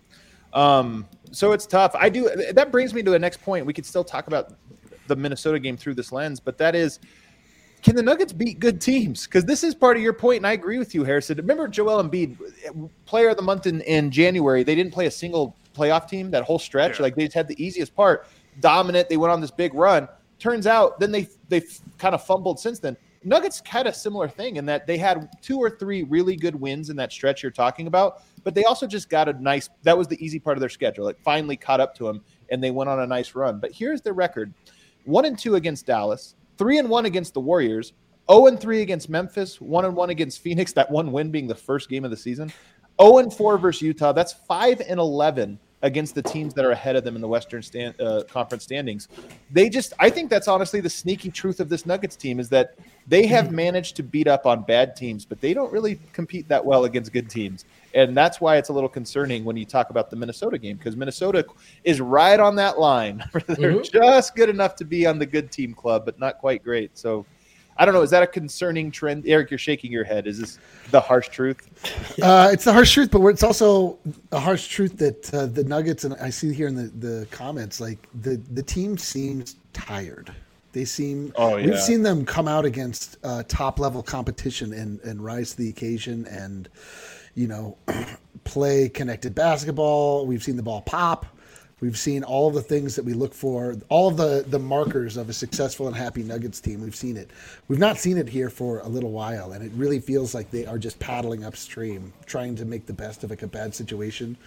So it's tough. That brings me to the next point. We could still talk about the Minnesota game through this lens, but that is, can the Nuggets beat good teams? Because this is part of your point, and I agree with you, Harrison. Remember Joel Embiid, player of the month in January, they didn't play a single playoff team that whole stretch. Yeah. Like, they just had the easiest part. Dominant. They went on this big run. Turns out then they've kind of fumbled since then. Nuggets had a similar thing in that they had 2 or 3 really good wins in that stretch you're talking about, but they also just got that was the easy part of their schedule. It finally caught up to them, and they went on a nice run. But here's their record: 1-2 against Dallas, 3-1 against the Warriors, 0-3 against Memphis, 1-1 against Phoenix, that one win being the first game of the season, 0-4 versus Utah. That's 5-11 against the teams that are ahead of them in the Western Conference standings. I think that's honestly the sneaky truth of this Nuggets team, is that they have managed to beat up on bad teams, but they don't really compete that well against good teams. And that's why it's a little concerning when you talk about the Minnesota game, because Minnesota is right on that line. They're just good enough to be on the good team club, but not quite great. So I don't know. Is that a concerning trend? Eric, you're shaking your head. Is this the harsh truth? It's the harsh truth, but it's also a harsh truth that the Nuggets, and I see here in the comments, like the team seems tired. They seem. We've seen them come out against top level competition and rise to the occasion, and play connected basketball. We've seen the ball pop. We've seen all of the things that we look for, all of the markers of a successful and happy Nuggets team. We've seen it. We've not seen it here for a little while, and it really feels like they are just paddling upstream, trying to make the best of a bad situation.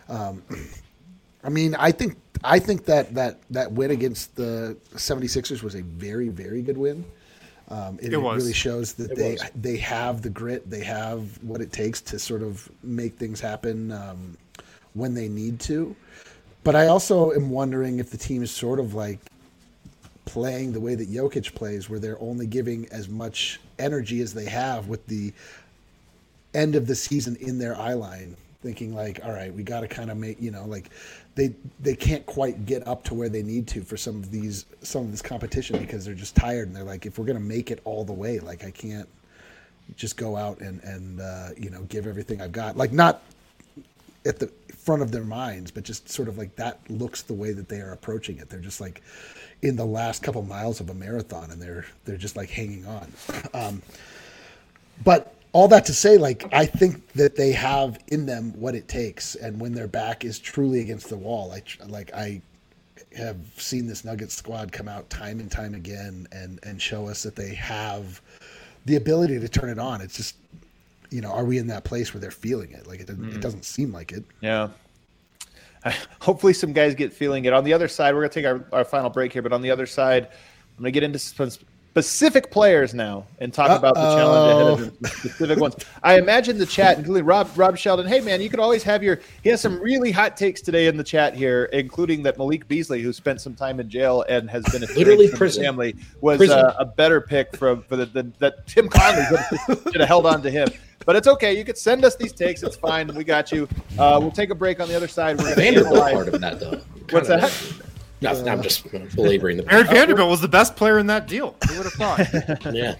I mean, I think that win against the 76ers was a very, very good win. It really shows that they have the grit, they have what it takes to sort of make things happen when they need to. But I also am wondering if the team is sort of like playing the way that Jokic plays, where they're only giving as much energy as they have with the end of the season in their eye line, thinking like, all right, we got to kind of make, like they can't quite get up to where they need to for some of this competition because they're just tired, and they're like, if we're going to make it all the way, like I can't just go out and give everything I've got, like not at the front of their minds, but just sort of like that looks the way that they are approaching it. They're just like in the last couple miles of a marathon, and they're just like hanging on. But all that to say, like, I think that they have in them what it takes, and when their back is truly against the wall, I have seen this Nuggets squad come out time and time again and show us that they have the ability to turn it on. It's just, are we in that place where they're feeling it? Like, it doesn't seem like it. Yeah. Hopefully some guys get feeling it. On the other side, we're going to take our final break here, but on the other side, I'm going to get into some specific players now and talk about the challenge ahead of them, specific ones. I imagine the chat, including Rob Sheldon. Hey, man, you could always have he has some really hot takes today in the chat here, including that Malik Beasley, who spent some time in jail and has been literally from his family, was a better pick for that Tim Conley should have held on to him. But it's okay. You could send us these takes. It's fine. We got you. We'll take a break on the other side. We're Vanderbilt part of that, though. What's that? Nothing. I'm just belaboring the point. Aaron Vanderbilt was the best player in that deal. Who would have thought? Yeah.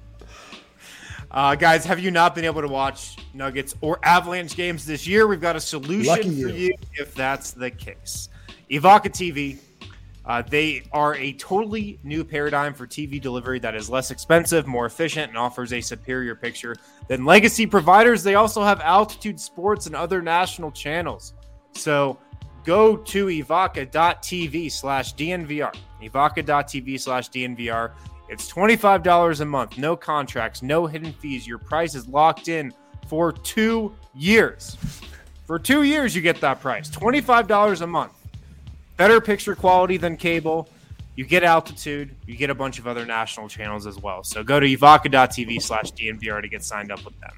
Guys, have you not been able to watch Nuggets or Avalanche games this year? We've got a solution for you if that's the case. Evoca TV. They are a totally new paradigm for TV delivery that is less expensive, more efficient, and offers a superior picture than legacy providers. They also have Altitude Sports and other national channels. So go to evoca.tv/DNVR. Evoca.tv/DNVR. It's $25 a month. No contracts, no hidden fees. Your price is locked in for 2 years. For 2 years, you get that price. $25 a month. Better picture quality than cable. You get Altitude. You get a bunch of other national channels as well. So go to evoca.tv/DNVR to get signed up with them.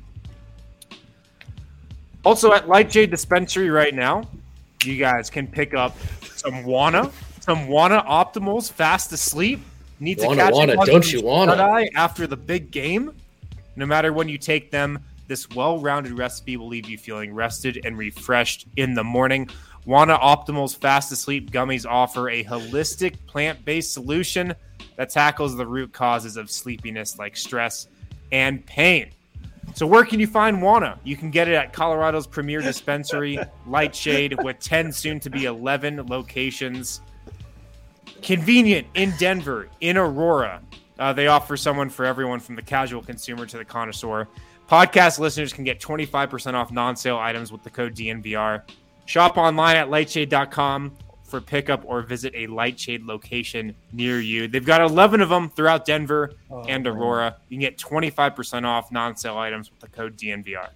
Also at Lightshade Dispensary right now, you guys can pick up some Wana Optimals fast asleep. Need to catch don't you wanna? After the big game. No matter when you take them, this well-rounded recipe will leave you feeling rested and refreshed in the morning. Wana Optimals Fast Asleep Gummies offer a holistic plant-based solution that tackles the root causes of sleepiness like stress and pain. So where can you find Wana? You can get it at Colorado's premier dispensary, Lightshade, with 10, soon to be 11 locations. Convenient in Denver, in Aurora. They offer someone for everyone from the casual consumer to the connoisseur. Podcast listeners can get 25% off non-sale items with the code DNVR. Shop online at lightshade.com for pickup or visit a Lightshade location near you. They've got 11 of them throughout Denver and Aurora. You can get 25% off non-sale items with the code DNVR.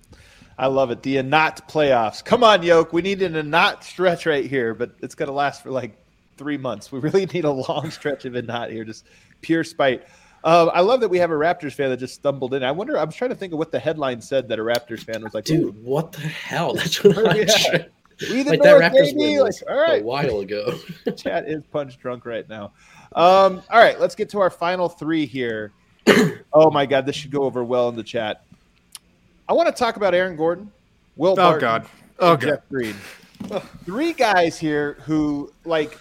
I love it. The Anat playoffs. Come on, Yoke. We need an Anat stretch right here, but it's going to last for like 3 months. We really need a long stretch of Anat here, just pure spite. I love that we have a Raptors fan that just stumbled in. I was trying to think of what the headline said that a Raptors fan was like, dude, what the hell? That's what I'm trying. Like that Raptors win was all right. A while ago. Chat is punch drunk right now. All right, let's get to our final three here. Oh my God, this should go over well in the chat. I want to talk about Aaron Gordon, Will Barton, Jeff Green. 3 guys here who, like,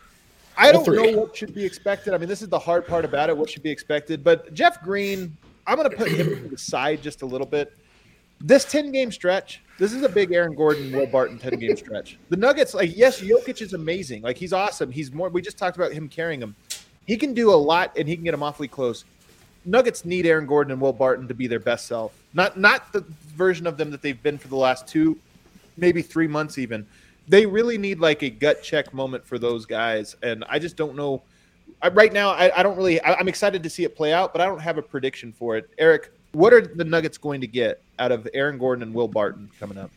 I don't know what should be expected. I mean, this is the hard part about it, what should be expected. But Jeff Green, I'm going to put him to the side just a little bit. This 10-game stretch, this is a big Aaron Gordon, Will Barton 10-game stretch. The Nuggets, like, yes, Jokic is amazing. Like, he's awesome. We just talked about him carrying them. He can do a lot, and he can get them awfully close. Nuggets need Aaron Gordon and Will Barton to be their best self. Not the version of them that they've been for the last 2, maybe 3 months even. They really need like a gut check moment for those guys. And I just don't know. Right now, I don't really – I'm excited to see it play out, but I don't have a prediction for it. Eric, what are the Nuggets going to get out of Aaron Gordon and Will Barton coming up?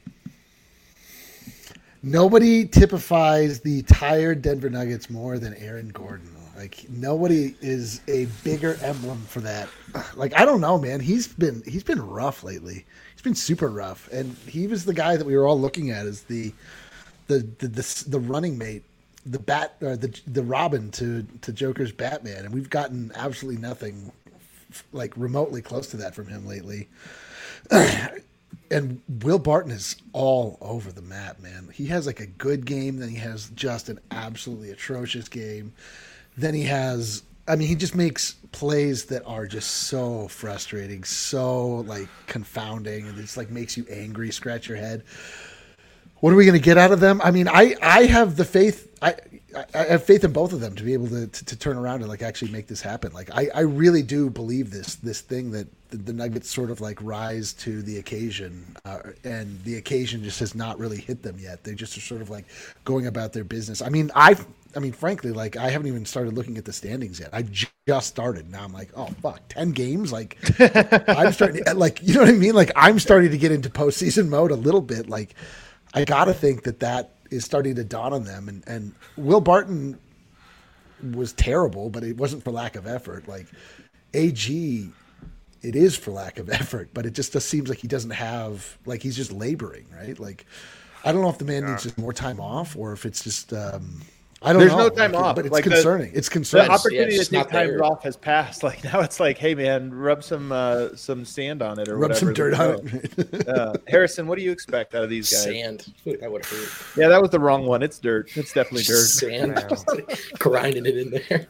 Nobody typifies the tired Denver Nuggets more than Aaron Gordon. Like, nobody is a bigger emblem for that. Like, I don't know, man. He's been rough lately. He's been super rough. And he was the guy that we were all looking at as the running mate the Robin to Joker's Batman, and we've gotten absolutely nothing like remotely close to that from him lately. And Will Barton is all over the map, man. He has like a good game, then he has just an absolutely atrocious game. Then he has, I mean, he just makes plays that are just so frustrating, so like confounding, and it's like makes you angry, scratch your head. What are we going to get out of them? I mean, I have the faith. I have faith in both of them to be able to turn around and like actually make this happen. Like I really do believe this thing that the Nuggets sort of like rise to the occasion, and the occasion just has not really hit them yet. They just are sort of like going about their business. I mean, frankly, like I haven't even started looking at the standings yet. I just started. Now I'm like, oh fuck, 10 games. Like I'm starting to, like, you know what I mean? Like I'm starting to get into postseason mode a little bit. Like I gotta think that is starting to dawn on them. And Will Barton was terrible, but it wasn't for lack of effort. Like AG, it is for lack of effort, but it just seems like he doesn't have, like he's just laboring, right? Like I don't know if the man needs just more time off or if it's just I don't There's know. no time off, but it's like concerning. It's The concerning. opportunity to take time there. off has passed. Like now, it's like, hey man, rub some sand on it or Rub whatever. some dirt on it. Harrison, what do you expect out of these guys? Sand. That would hurt. Yeah, that was the wrong one. It's dirt. It's definitely dirt. Sand. Just grinding it in there.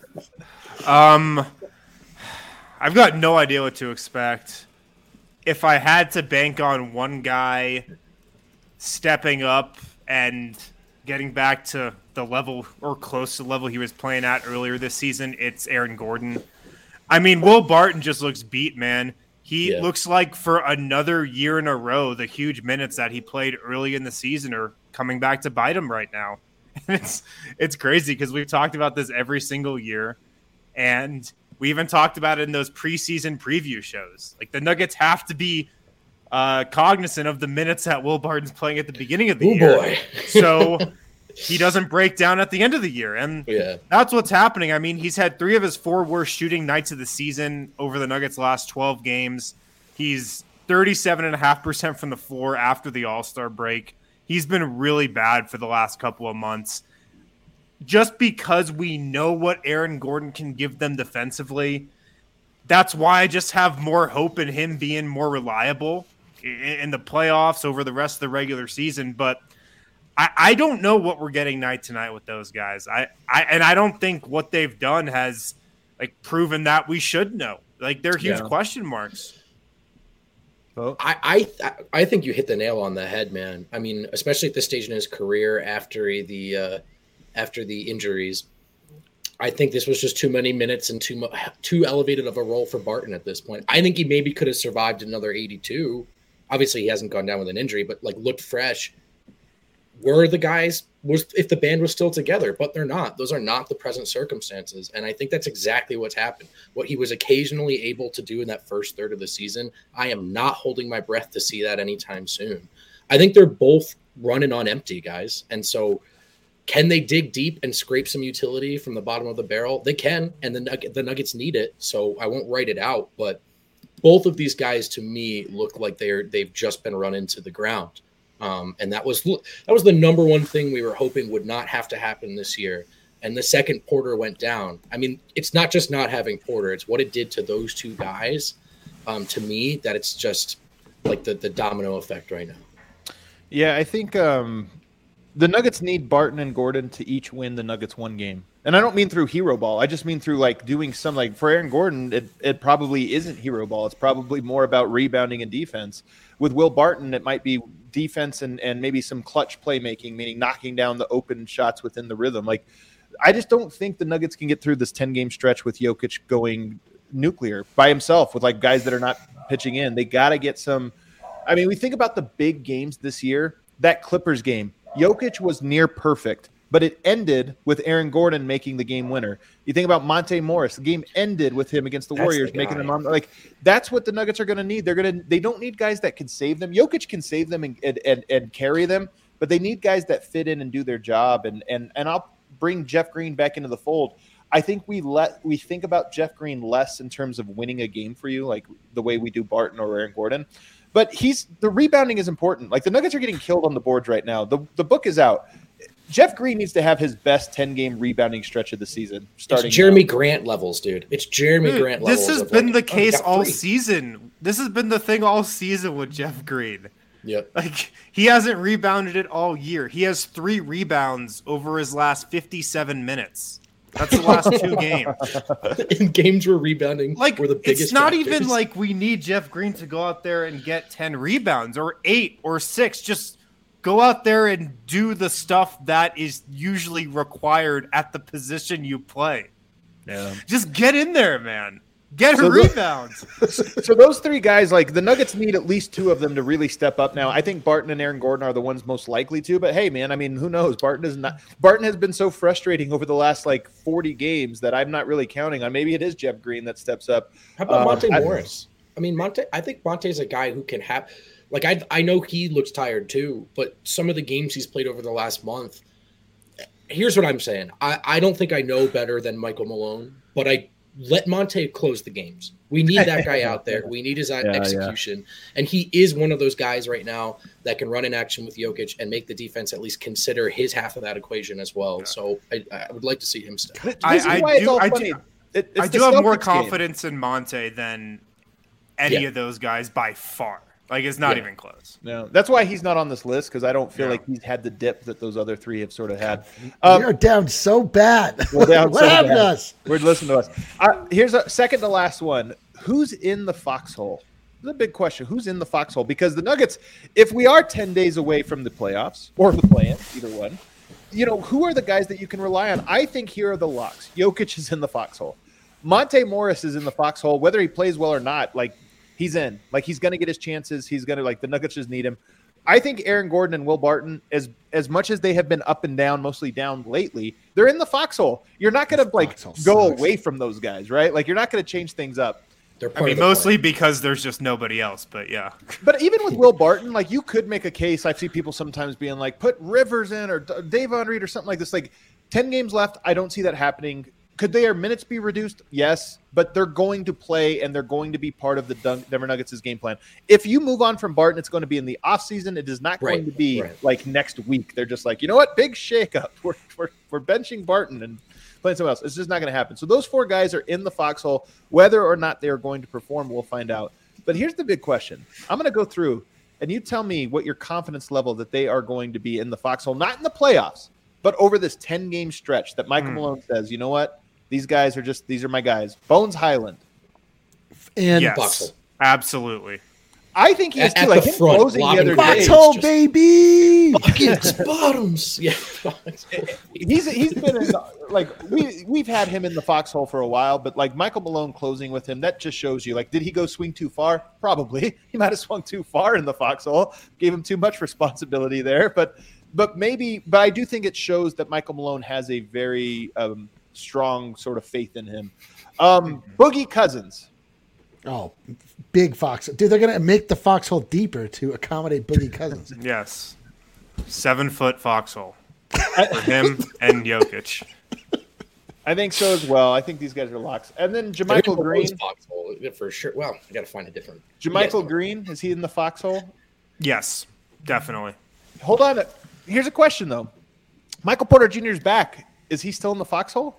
I've got no idea what to expect. If I had to bank on one guy stepping up and getting back to the level or close to the level he was playing at earlier this season, it's Aaron Gordon. I mean, Will Barton just looks beat, man. He looks like for another year in a row, the huge minutes that he played early in the season are coming back to bite him right now. It's crazy because we've talked about this every single year, and we even talked about it in those preseason preview shows. Like the Nuggets have to be cognizant of the minutes that Will Barton's playing at the beginning of the year. Boy. So he doesn't break down at the end of the year. And that's what's happening. I mean, he's had 3 of his 4 worst shooting nights of the season over the Nuggets' last 12 games. He's 37.5% from the floor after the All-Star break. He's been really bad for the last couple of months. Just because we know what Aaron Gordon can give them defensively, that's why I just have more hope in him being more reliable in the playoffs over the rest of the regular season. But I don't know what we're getting night to night with those guys. I don't think what they've done has like proven that we should know. Like they're huge question marks. Well, I think you hit the nail on the head, man. I mean, especially at this stage in his career after the injuries. I think this was just too many minutes and too elevated of a role for Barton at this point. I think he maybe could have survived another 82. Obviously, he hasn't gone down with an injury, but like looked fresh. Were the guys if the band was still together, but they're not. Those are not the present circumstances, and I think that's exactly what's happened. What he was occasionally able to do in that first third of the season, I am not holding my breath to see that anytime soon. I think they're both running on empty, guys, and so. Can they dig deep and scrape some utility from the bottom of the barrel? They can, and the Nuggets need it, so I won't write it out. But both of these guys, to me, look like they've just been run into the ground, and that was the number one thing we were hoping would not have to happen this year. And the second Porter went down, I mean, it's not just not having Porter; it's what it did to those 2 guys. To me, that it's just like the domino effect right now. Yeah, I think. The Nuggets need Barton and Gordon to each win the Nuggets one game. And I don't mean through hero ball. I just mean through like doing some, like for Aaron Gordon, it probably isn't hero ball. It's probably more about rebounding and defense. With Will Barton, it might be defense and maybe some clutch playmaking, meaning knocking down the open shots within the rhythm. Like, I just don't think the Nuggets can get through this 10-game stretch with Jokic going nuclear by himself with like guys that are not pitching in. They got to get some. I mean, we think about the big games this year, that Clippers game. Jokic was near perfect, but it ended with Aaron Gordon making the game winner. You think about Monte Morris, the game ended with him against the Warriors, making them on. Like that's what the Nuggets are going to need. They don't need guys that can save them. Jokic can save them and carry them, but they need guys that fit in and do their job. And I'll bring Jeff Green back into the fold. I think we think about Jeff Green less in terms of winning a game for you, like the way we do Barton or Aaron Gordon. But the rebounding is important. Like the Nuggets are getting killed on the boards right now. The book is out. Jeff Green needs to have his best 10-game rebounding stretch of the season. Starting it's Jeremy Grant levels, dude. It's Jeremy Grant levels. This has been the case all season. This has been the thing all season with Jeff Green. Yep. Like, he hasn't rebounded it all year. He has 3 rebounds over his last 57 minutes. That's the last 2 games. In games where rebounding were the biggest it's not factors. even like we need Jeff Green to go out there and get 10 rebounds or 8 or 6. Just go out there and do the stuff that is usually required at the position you play. Yeah. Just get in there, man. Get a rebound. So those 3 guys, like the Nuggets need at least 2 of them to really step up now. I think Barton and Aaron Gordon are the ones most likely to, but hey, man, I mean, who knows? Barton has been so frustrating over the last 40 games that I'm not really counting on. Maybe it is Jeff Green that steps up. How about Monte Morris? I think Monte's a guy who can have, I know he looks tired too, but some of the games he's played over the last month, here's what I'm saying. I don't think I know better than Michael Malone, but I let Monte close the games. We need that guy out there. We need his execution. Yeah. And he is one of those guys right now that can run in action with Jokic and make the defense at least consider his half of that equation as well. Yeah. So I would like to see him step. I do have more confidence in Monte than any of those guys by far. It's not even close. No, that's why he's not on this list, because I don't feel like he's had the dip that those other 3 have sort of had. We are down so bad. We're down what so happened bad. to us? Listen to us. Here's a second to last one. Who's in the foxhole? This is a big question. Who's in the foxhole? Because the Nuggets, if we are 10 days away from the playoffs or the play-in, either one, who are the guys that you can rely on? I think here are the locks. Jokic is in the foxhole. Monte Morris is in the foxhole, whether he plays well or not. He's in. He's going to get his chances. He's going to, the Nuggets just need him. I think Aaron Gordon and Will Barton, as much as they have been up and down, mostly down lately, they're in the foxhole. You're not going to, go away from those guys, right? You're not going to change things up. Mostly because there's just nobody else, but yeah. But even with Will Barton, you could make a case. I see people sometimes being put Rivers in or Davon Reed or something like this. 10 games left, I don't see that happening. Could their minutes be reduced? Yes, but they're going to play and they're going to be part of the Denver Nuggets' game plan. If you move on from Barton, it's going to be in the offseason. It is not going to be next week. They're just you know what? Big shakeup. We're benching Barton and playing someone else. It's just not going to happen. So those 4 guys are in the foxhole. Whether or not they are going to perform, we'll find out. But here's the big question. I'm going to go through and you tell me what your confidence level that they are going to be in the foxhole, not in the playoffs, but over this 10-game stretch that Michael Malone says, you know what? These guys these are my guys. Bones Highland. And yes, absolutely. I think he's too. Him closing the other day. Foxhole, baby! Buckets, bottoms. Yeah. He's been in, we've had him in the foxhole for a while, but Michael Malone closing with him, that just shows you, did he go swing too far? Probably. He might have swung too far in the foxhole. Gave him too much responsibility there. But I do think it shows that Michael Malone has a very strong sort of faith in him. Boogie Cousins. Oh, big fox. Dude, they're going to make the foxhole deeper to accommodate Boogie Cousins. Yes. 7-foot foxhole for him and Jokic. I think so as well. I think these guys are locks. And then JaMychal Green. Foxhole, for sure. Well, I got to find a different. JaMychal Green, is he in the foxhole? Yes, definitely. Hold on. Here's a question, though. Michael Porter Jr. is back. Is he still in the foxhole?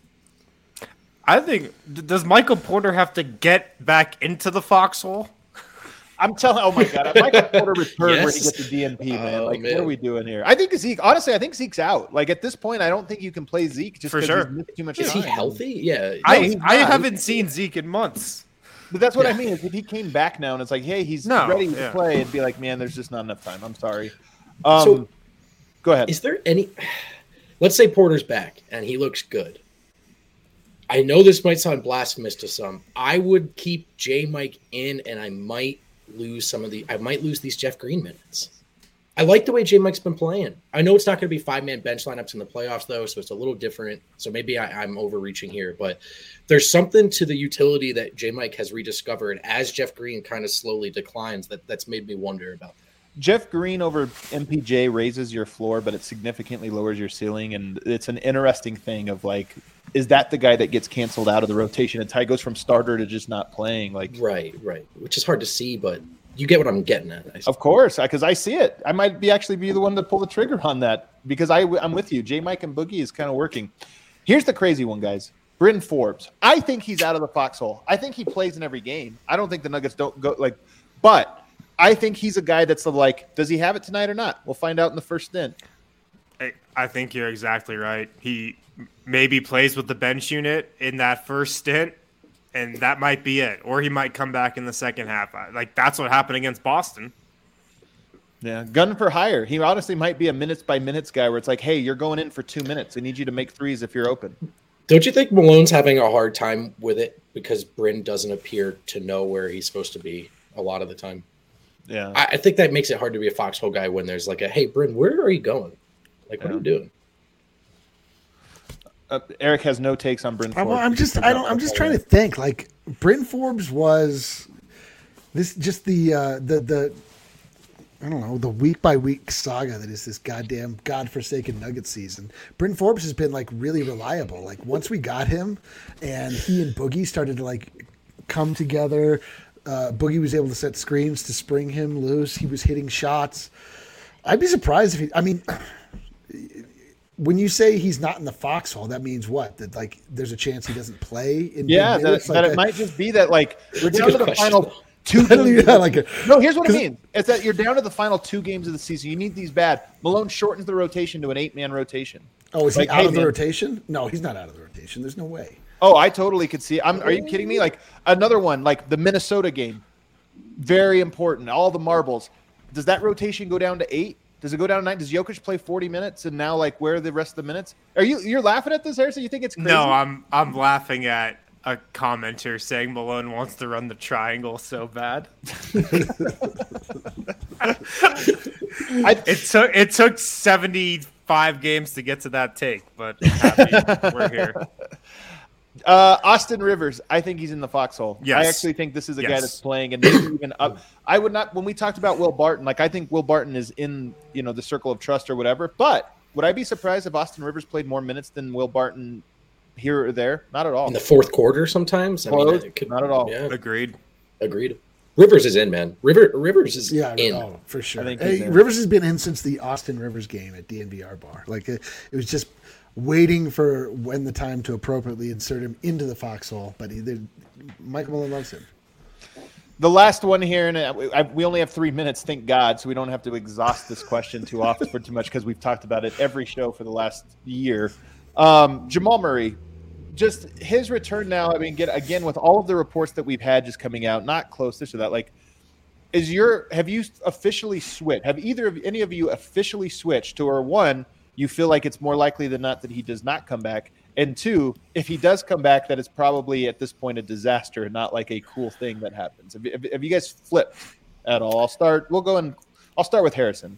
I think, does Michael Porter have to get back into the foxhole? I'm telling. Oh my God, Michael Porter returned where he gets the DNP, man. What are we doing here? I think Zeke. Honestly, I think Zeke's out. At this point, I don't think you can play Zeke just because he's missed too much time. Is he healthy? Yeah. I haven't seen Zeke in months. But that's what I mean. Is if he came back now and it's hey, he's ready to play, it'd be man, there's just not enough time. I'm sorry. So, go ahead. Is there any? Let's say Porter's back and he looks good. I know this might sound blasphemous to some. I would keep J-Mike in, and I might lose these Jeff Green minutes. I like the way J-Mike's been playing. I know it's not going to be 5-man bench lineups in the playoffs, though, so it's a little different. So maybe I'm overreaching here, but there's something to the utility that J-Mike has rediscovered as Jeff Green kind of slowly declines that's made me wonder about that. Jeff Green over MPJ raises your floor, but it significantly lowers your ceiling, and it's an interesting thing of is that the guy that gets canceled out of the rotation? And Ty goes from starter to just not playing. Right, which is hard to see, but you get what I'm getting at. Of course, because I see it. I might actually be the one to pull the trigger on that because I'm with you. J. Mike and Boogie is kind of working. Here's the crazy one, guys. Bryn Forbes. I think he's out of the foxhole. I think he plays in every game. I don't think the Nuggets don't go but I think he's a guy that's like, does he have it tonight or not? We'll find out in the first stint. I think you're exactly right. He maybe plays with the bench unit in that first stint, and that might be it. Or he might come back in the second half. Like, that's what happened against Boston. Yeah, gun for hire. He honestly might be a minutes-by-minutes guy where it's like, hey, you're going in for 2 minutes. I need you to make threes if you're open. Don't you think Malone's having a hard time with it because Bryn doesn't appear to know where he's supposed to be a lot of the time? Yeah. I think that makes it hard to be a foxhole guy when there's like hey, Bryn, where are you going? Like, what are you doing? Eric has no takes on Bryn Forbes. I'm just trying to think. Like, Bryn Forbes was this just the I don't know, the week by week saga that is this goddamn godforsaken Nuggets season. Bryn Forbes has been like really reliable. Like, once we got him and he and Boogie started to like come together, Boogie was able to set screens to spring him loose. He was hitting shots. I'd be surprised if when you say he's not in the foxhole, that means what? That like there's a chance he doesn't play in that it might just be that like we're down to the final 2 games. No, here's what I mean. It's that you're down to the final 2 games of the season. You need these bad. Malone shortens the rotation to an 8-man rotation. Oh, is he out of the rotation? No, he's not out of the rotation. There's no way. Oh, I totally could see. Are you kidding me? Like another one, like the Minnesota game, very important. All the marbles. Does that rotation go down to 8? Does it go down to 9? Does Jokic play 40 minutes and now like where are the rest of the minutes? You're laughing at this, Harrison? You think it's crazy? No, I'm laughing at a commenter saying Malone wants to run the triangle so bad. It took 75 games to get to that take, but I'm happy we're here. Austin Rivers, I think he's in the foxhole. Yes. I actually think this is a guy that's playing and maybe even up. I would not, when we talked about Will Barton, like I think Will Barton is in, the circle of trust or whatever, but would I be surprised if Austin Rivers played more minutes than Will Barton here or there? Not at all. In the fourth quarter sometimes? Not at all. Yeah. Agreed. Rivers is in, man. Rivers is in. Oh, for sure. I think Rivers has been in since the Austin Rivers game at DNVR bar. Like it was just waiting for when the time to appropriately insert him into the foxhole. But Michael Malone loves him. The last one here, and we only have 3 minutes, thank God, so we don't have to exhaust this question too often for too much because we've talked about it every show for the last year. Jamal Murray, just his return now. I mean, again with all of the reports that we've had just coming out, not close to that. Like, have you officially switched? Have any of you officially switched to, or one, you feel like it's more likely than not that he does not come back, and 2, if he does come back, that it's probably at this point a disaster, not like a cool thing that happens. Have you guys flipped at all? I'll start with Harrison.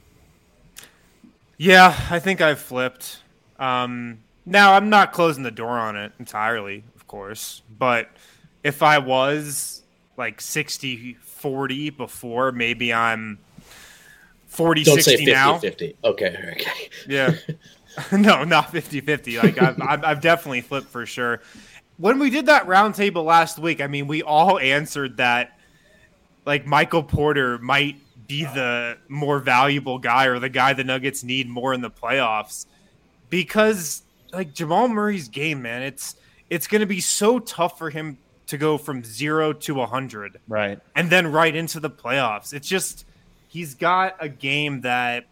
Yeah, I think I've flipped. Now, I'm not closing the door on it entirely, of course, but if I was like 60-40 before, maybe I'm 40-60 Don't say 50, now. 50. Okay. Yeah. No, not 50-50. Like I've definitely flipped for sure. When we did that roundtable last week, I mean, we all answered that like Michael Porter might be the more valuable guy or the guy the Nuggets need more in the playoffs because like Jamal Murray's game, man, it's going to be so tough for him to go from 0 to 100. Right. And then right into the playoffs. It's just, he's got a game that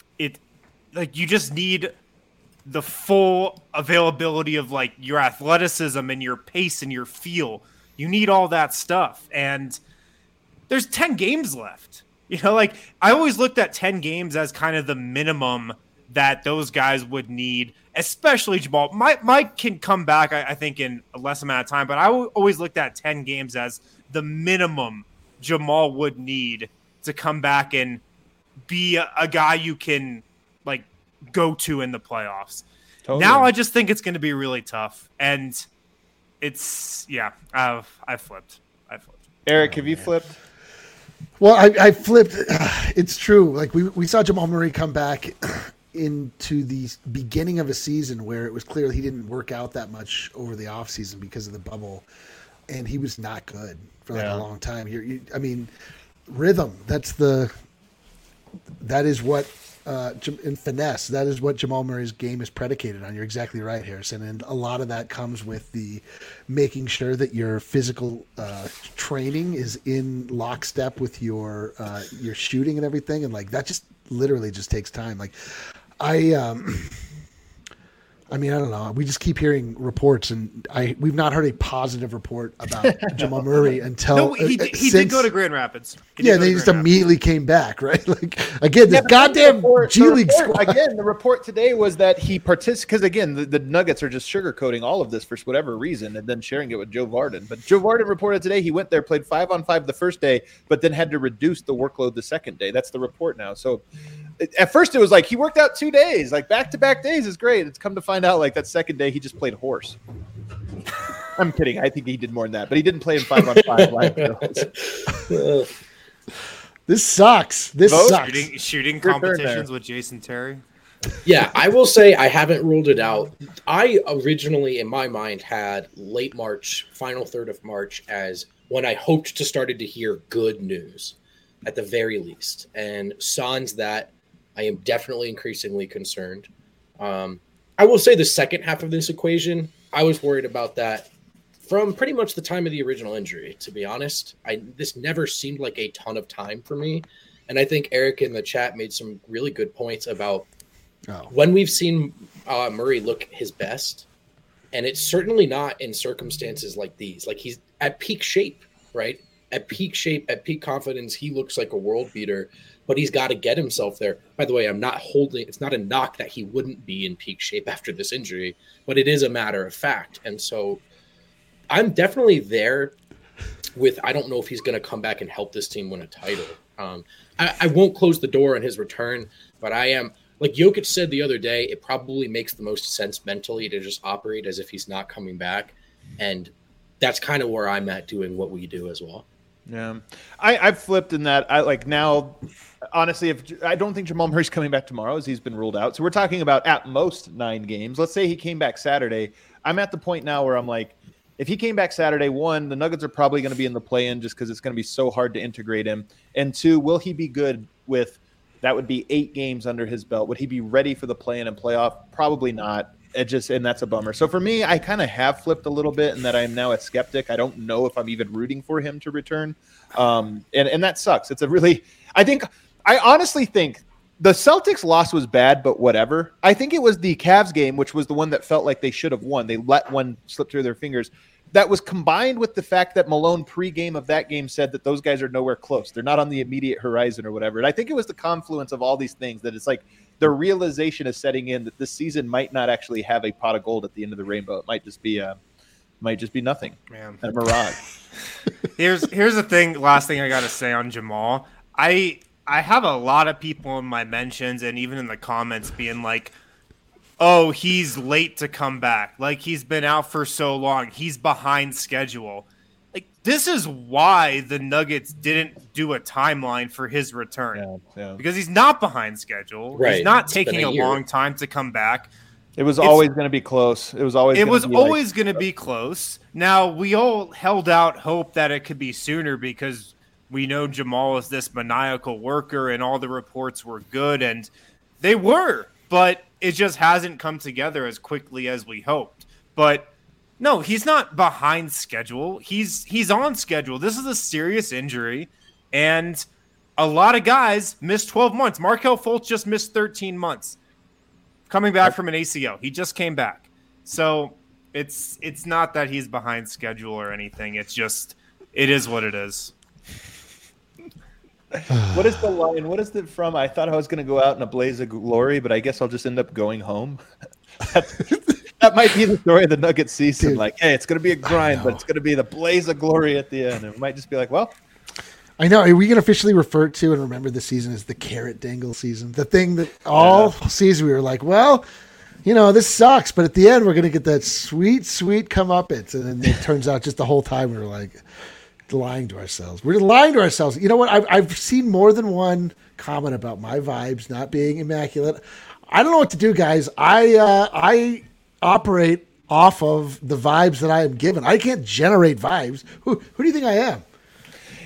you just need the full availability of like your athleticism and your pace and your feel. You need all that stuff. And there's 10 games left. Like I always looked at 10 games as kind of the minimum that those guys would need, especially Jamal. Mike can come back, I think, in a less amount of time, but I always looked at 10 games as the minimum Jamal would need to come back and be a guy you can like go to in the playoffs. Totally. Now I just think it's going to be really tough, and it's I flipped. Eric, have you flipped? Well, I flipped. It's true. Like we saw Jamal Murray come back into the beginning of a season where it was clear he didn't work out that much over the offseason because of the bubble, and he was not good for like a long time. I mean, rhythm. That is what in finesse. That is what Jamal Murray's game is predicated on. You're exactly right, Harrison. And a lot of that comes with the making sure that your physical training is in lockstep with your shooting and everything. And like that just literally just takes time. Like I mean, I don't know. We just keep hearing reports, and we've not heard a positive report about Jamal Murray until he did go to Grand Rapids. They just immediately came back, right? Like again, this goddamn G League squad. Again, the report today was that he participated because again, the Nuggets are just sugarcoating all of this for whatever reason, and then sharing it with Joe Varden. But Joe Varden reported today he went there, played 5-on-5 the first day, but then had to reduce the workload the second day. That's the report now. So. At first, it was like he worked out 2 days, like back-to-back days is great. It's come to find out, like that second day, he just played horse. I'm kidding. I think he did more than that, but he didn't play in 5-on-5 live. This sucks. Sucks. Shooting competitions with Jason Terry. Yeah, I will say I haven't ruled it out. I originally, in my mind, had late March, final third of March, as when I hoped to started to hear good news, at the very least. And sans that, I am definitely increasingly concerned. I will say the second half of this equation, I was worried about that from pretty much the time of the original injury, to be honest. This never seemed like a ton of time for me. And I think Eric in the chat made some really good points about when we've seen Murray look his best. And it's certainly not in circumstances like these. Like he's at peak shape, right? At peak shape, at peak confidence, he looks like a world beater. But he's got to get himself there. By the way, it's not a knock that he wouldn't be in peak shape after this injury, but it is a matter of fact. And so I'm definitely there with, I don't know if he's going to come back and help this team win a title. I won't close the door on his return, but I am, like Jokic said the other day, it probably makes the most sense mentally to just operate as if he's not coming back. And that's kind of where I'm at doing what we do as well. Yeah, I've flipped in that. I like now, honestly, if I don't think Jamal Murray's coming back tomorrow, as he's been ruled out. So we're talking about at most 9 games. Let's say he came back Saturday. I'm at the point now where I'm like, if he came back Saturday, 1, the Nuggets are probably going to be in the play-in just because it's going to be so hard to integrate him. And 2, will he be good with that? Would be 8 games under his belt. Would he be ready for the play-in and playoff? Probably not. And that's a bummer. So for me, I kind of have flipped a little bit in that I'm now a skeptic. I don't know if I'm even rooting for him to return. And that sucks. I honestly think the Celtics loss was bad, but whatever. I think it was the Cavs game, which was the one that felt like they should have won. They let one slip through their fingers. That was combined with the fact that Malone pre-game of that game said that those guys are nowhere close. They're not on the immediate horizon or whatever. And I think it was the confluence of all these things that it's like, the realization is setting in that this season might not actually have a pot of gold at the end of the rainbow. It might just be nothing. Man. A mirage. Here's the thing. Last thing I got to say on Jamal. I have a lot of people in my mentions and even in the comments being like, oh, he's late to come back. Like he's been out for so long. He's behind schedule. Like this is why the Nuggets didn't do a timeline for his return because he's not behind schedule. Right. He's not taking a long time to come back. It was always going to be close. It was always going to be close. Now we all held out hope that it could be sooner because we know Jamal is this maniacal worker and all the reports were good and they were, but it just hasn't come together as quickly as we hoped. But no, he's not behind schedule. He's on schedule. This is a serious injury, and a lot of guys missed 12 months. Markelle Fultz just missed 13 months coming back from an ACL. He just came back. So it's not that he's behind schedule or anything. It's just it is what it is. What is the line? What is it from? I thought I was going to go out in a blaze of glory, but I guess I'll just end up going home. That might be the story of the Nuggets season. Dude, like, hey, it's going to be a grind, but it's going to be the blaze of glory at the end. And it might just be like, well. I know. Are we going to officially refer to and remember the season as the carrot dangle season? The thing that all season we were like, well, this sucks. But at the end, we're going to get that sweet, sweet comeuppance. And then it turns out just the whole time we were like lying to ourselves. We're lying to ourselves. You know what? I've seen more than one comment about my vibes not being immaculate. I don't know what to do, guys. I operate off of the vibes that I am given. I can't generate vibes. Who do you think I am?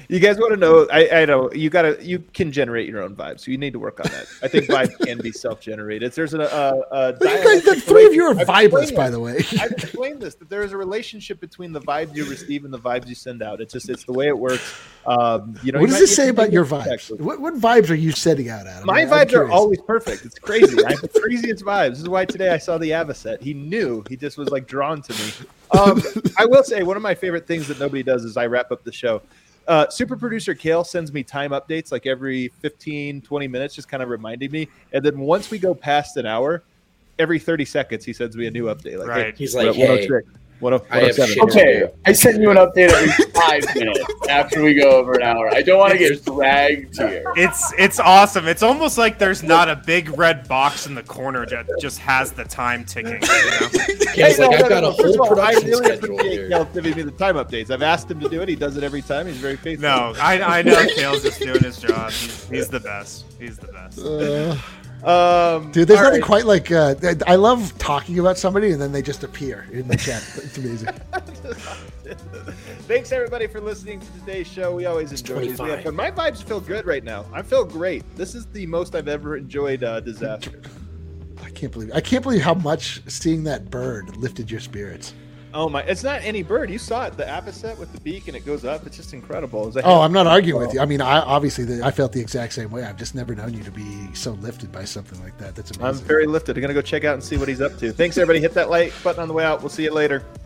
You guys want to know? I know you can generate your own vibes. So you need to work on that. I think vibes can be self-generated. There's the three of you are vibers, by the way. I've explained this, that there is a relationship between the vibes you receive and the vibes you send out. It's the way it works. What does this say about your vibes? What vibes are you sending out, Adam? My vibes are always perfect. It's crazy. I have the craziest vibes. This is why today I saw the Avocet. He knew. He just was like drawn to me. I will say one of my favorite things that nobody does is I wrap up the show. Super producer Kale sends me time updates like every 15, 20 minutes, just kind of reminding me. And then once we go past an hour, every 30 seconds, he sends me a new update. Like, right. Hey, he's like, hey, 107. Okay, I send you an update every 5 minutes after we go over an hour. I don't want to get dragged here. It's awesome. It's almost like there's not a big red box in the corner that just has the time ticking. I've got a whole production I really schedule appreciate here. Kale giving me the time updates. I've asked him to do it. He does it every time. He's very faithful. No, I know Kale's just doing his job. He's the best. He's the best. Dude, there's nothing quite like I love talking about somebody and then they just appear in the chat. It's amazing. Thanks everybody for listening to today's show. We always enjoy these. We have fun. My vibes feel good right now. I feel great. This is the most I've ever enjoyed Disaster. I can't believe how much seeing that bird lifted your spirits. Oh my! It's not any bird. You saw it, the Avocet with the beak, and it goes up. It's just incredible. I'm not arguing with you. I mean, I felt the exact same way. I've just never known you to be so lifted by something like that. That's amazing. I'm very lifted. I'm gonna go check out and see what he's up to. Thanks, everybody. Hit that like button on the way out. We'll see you later.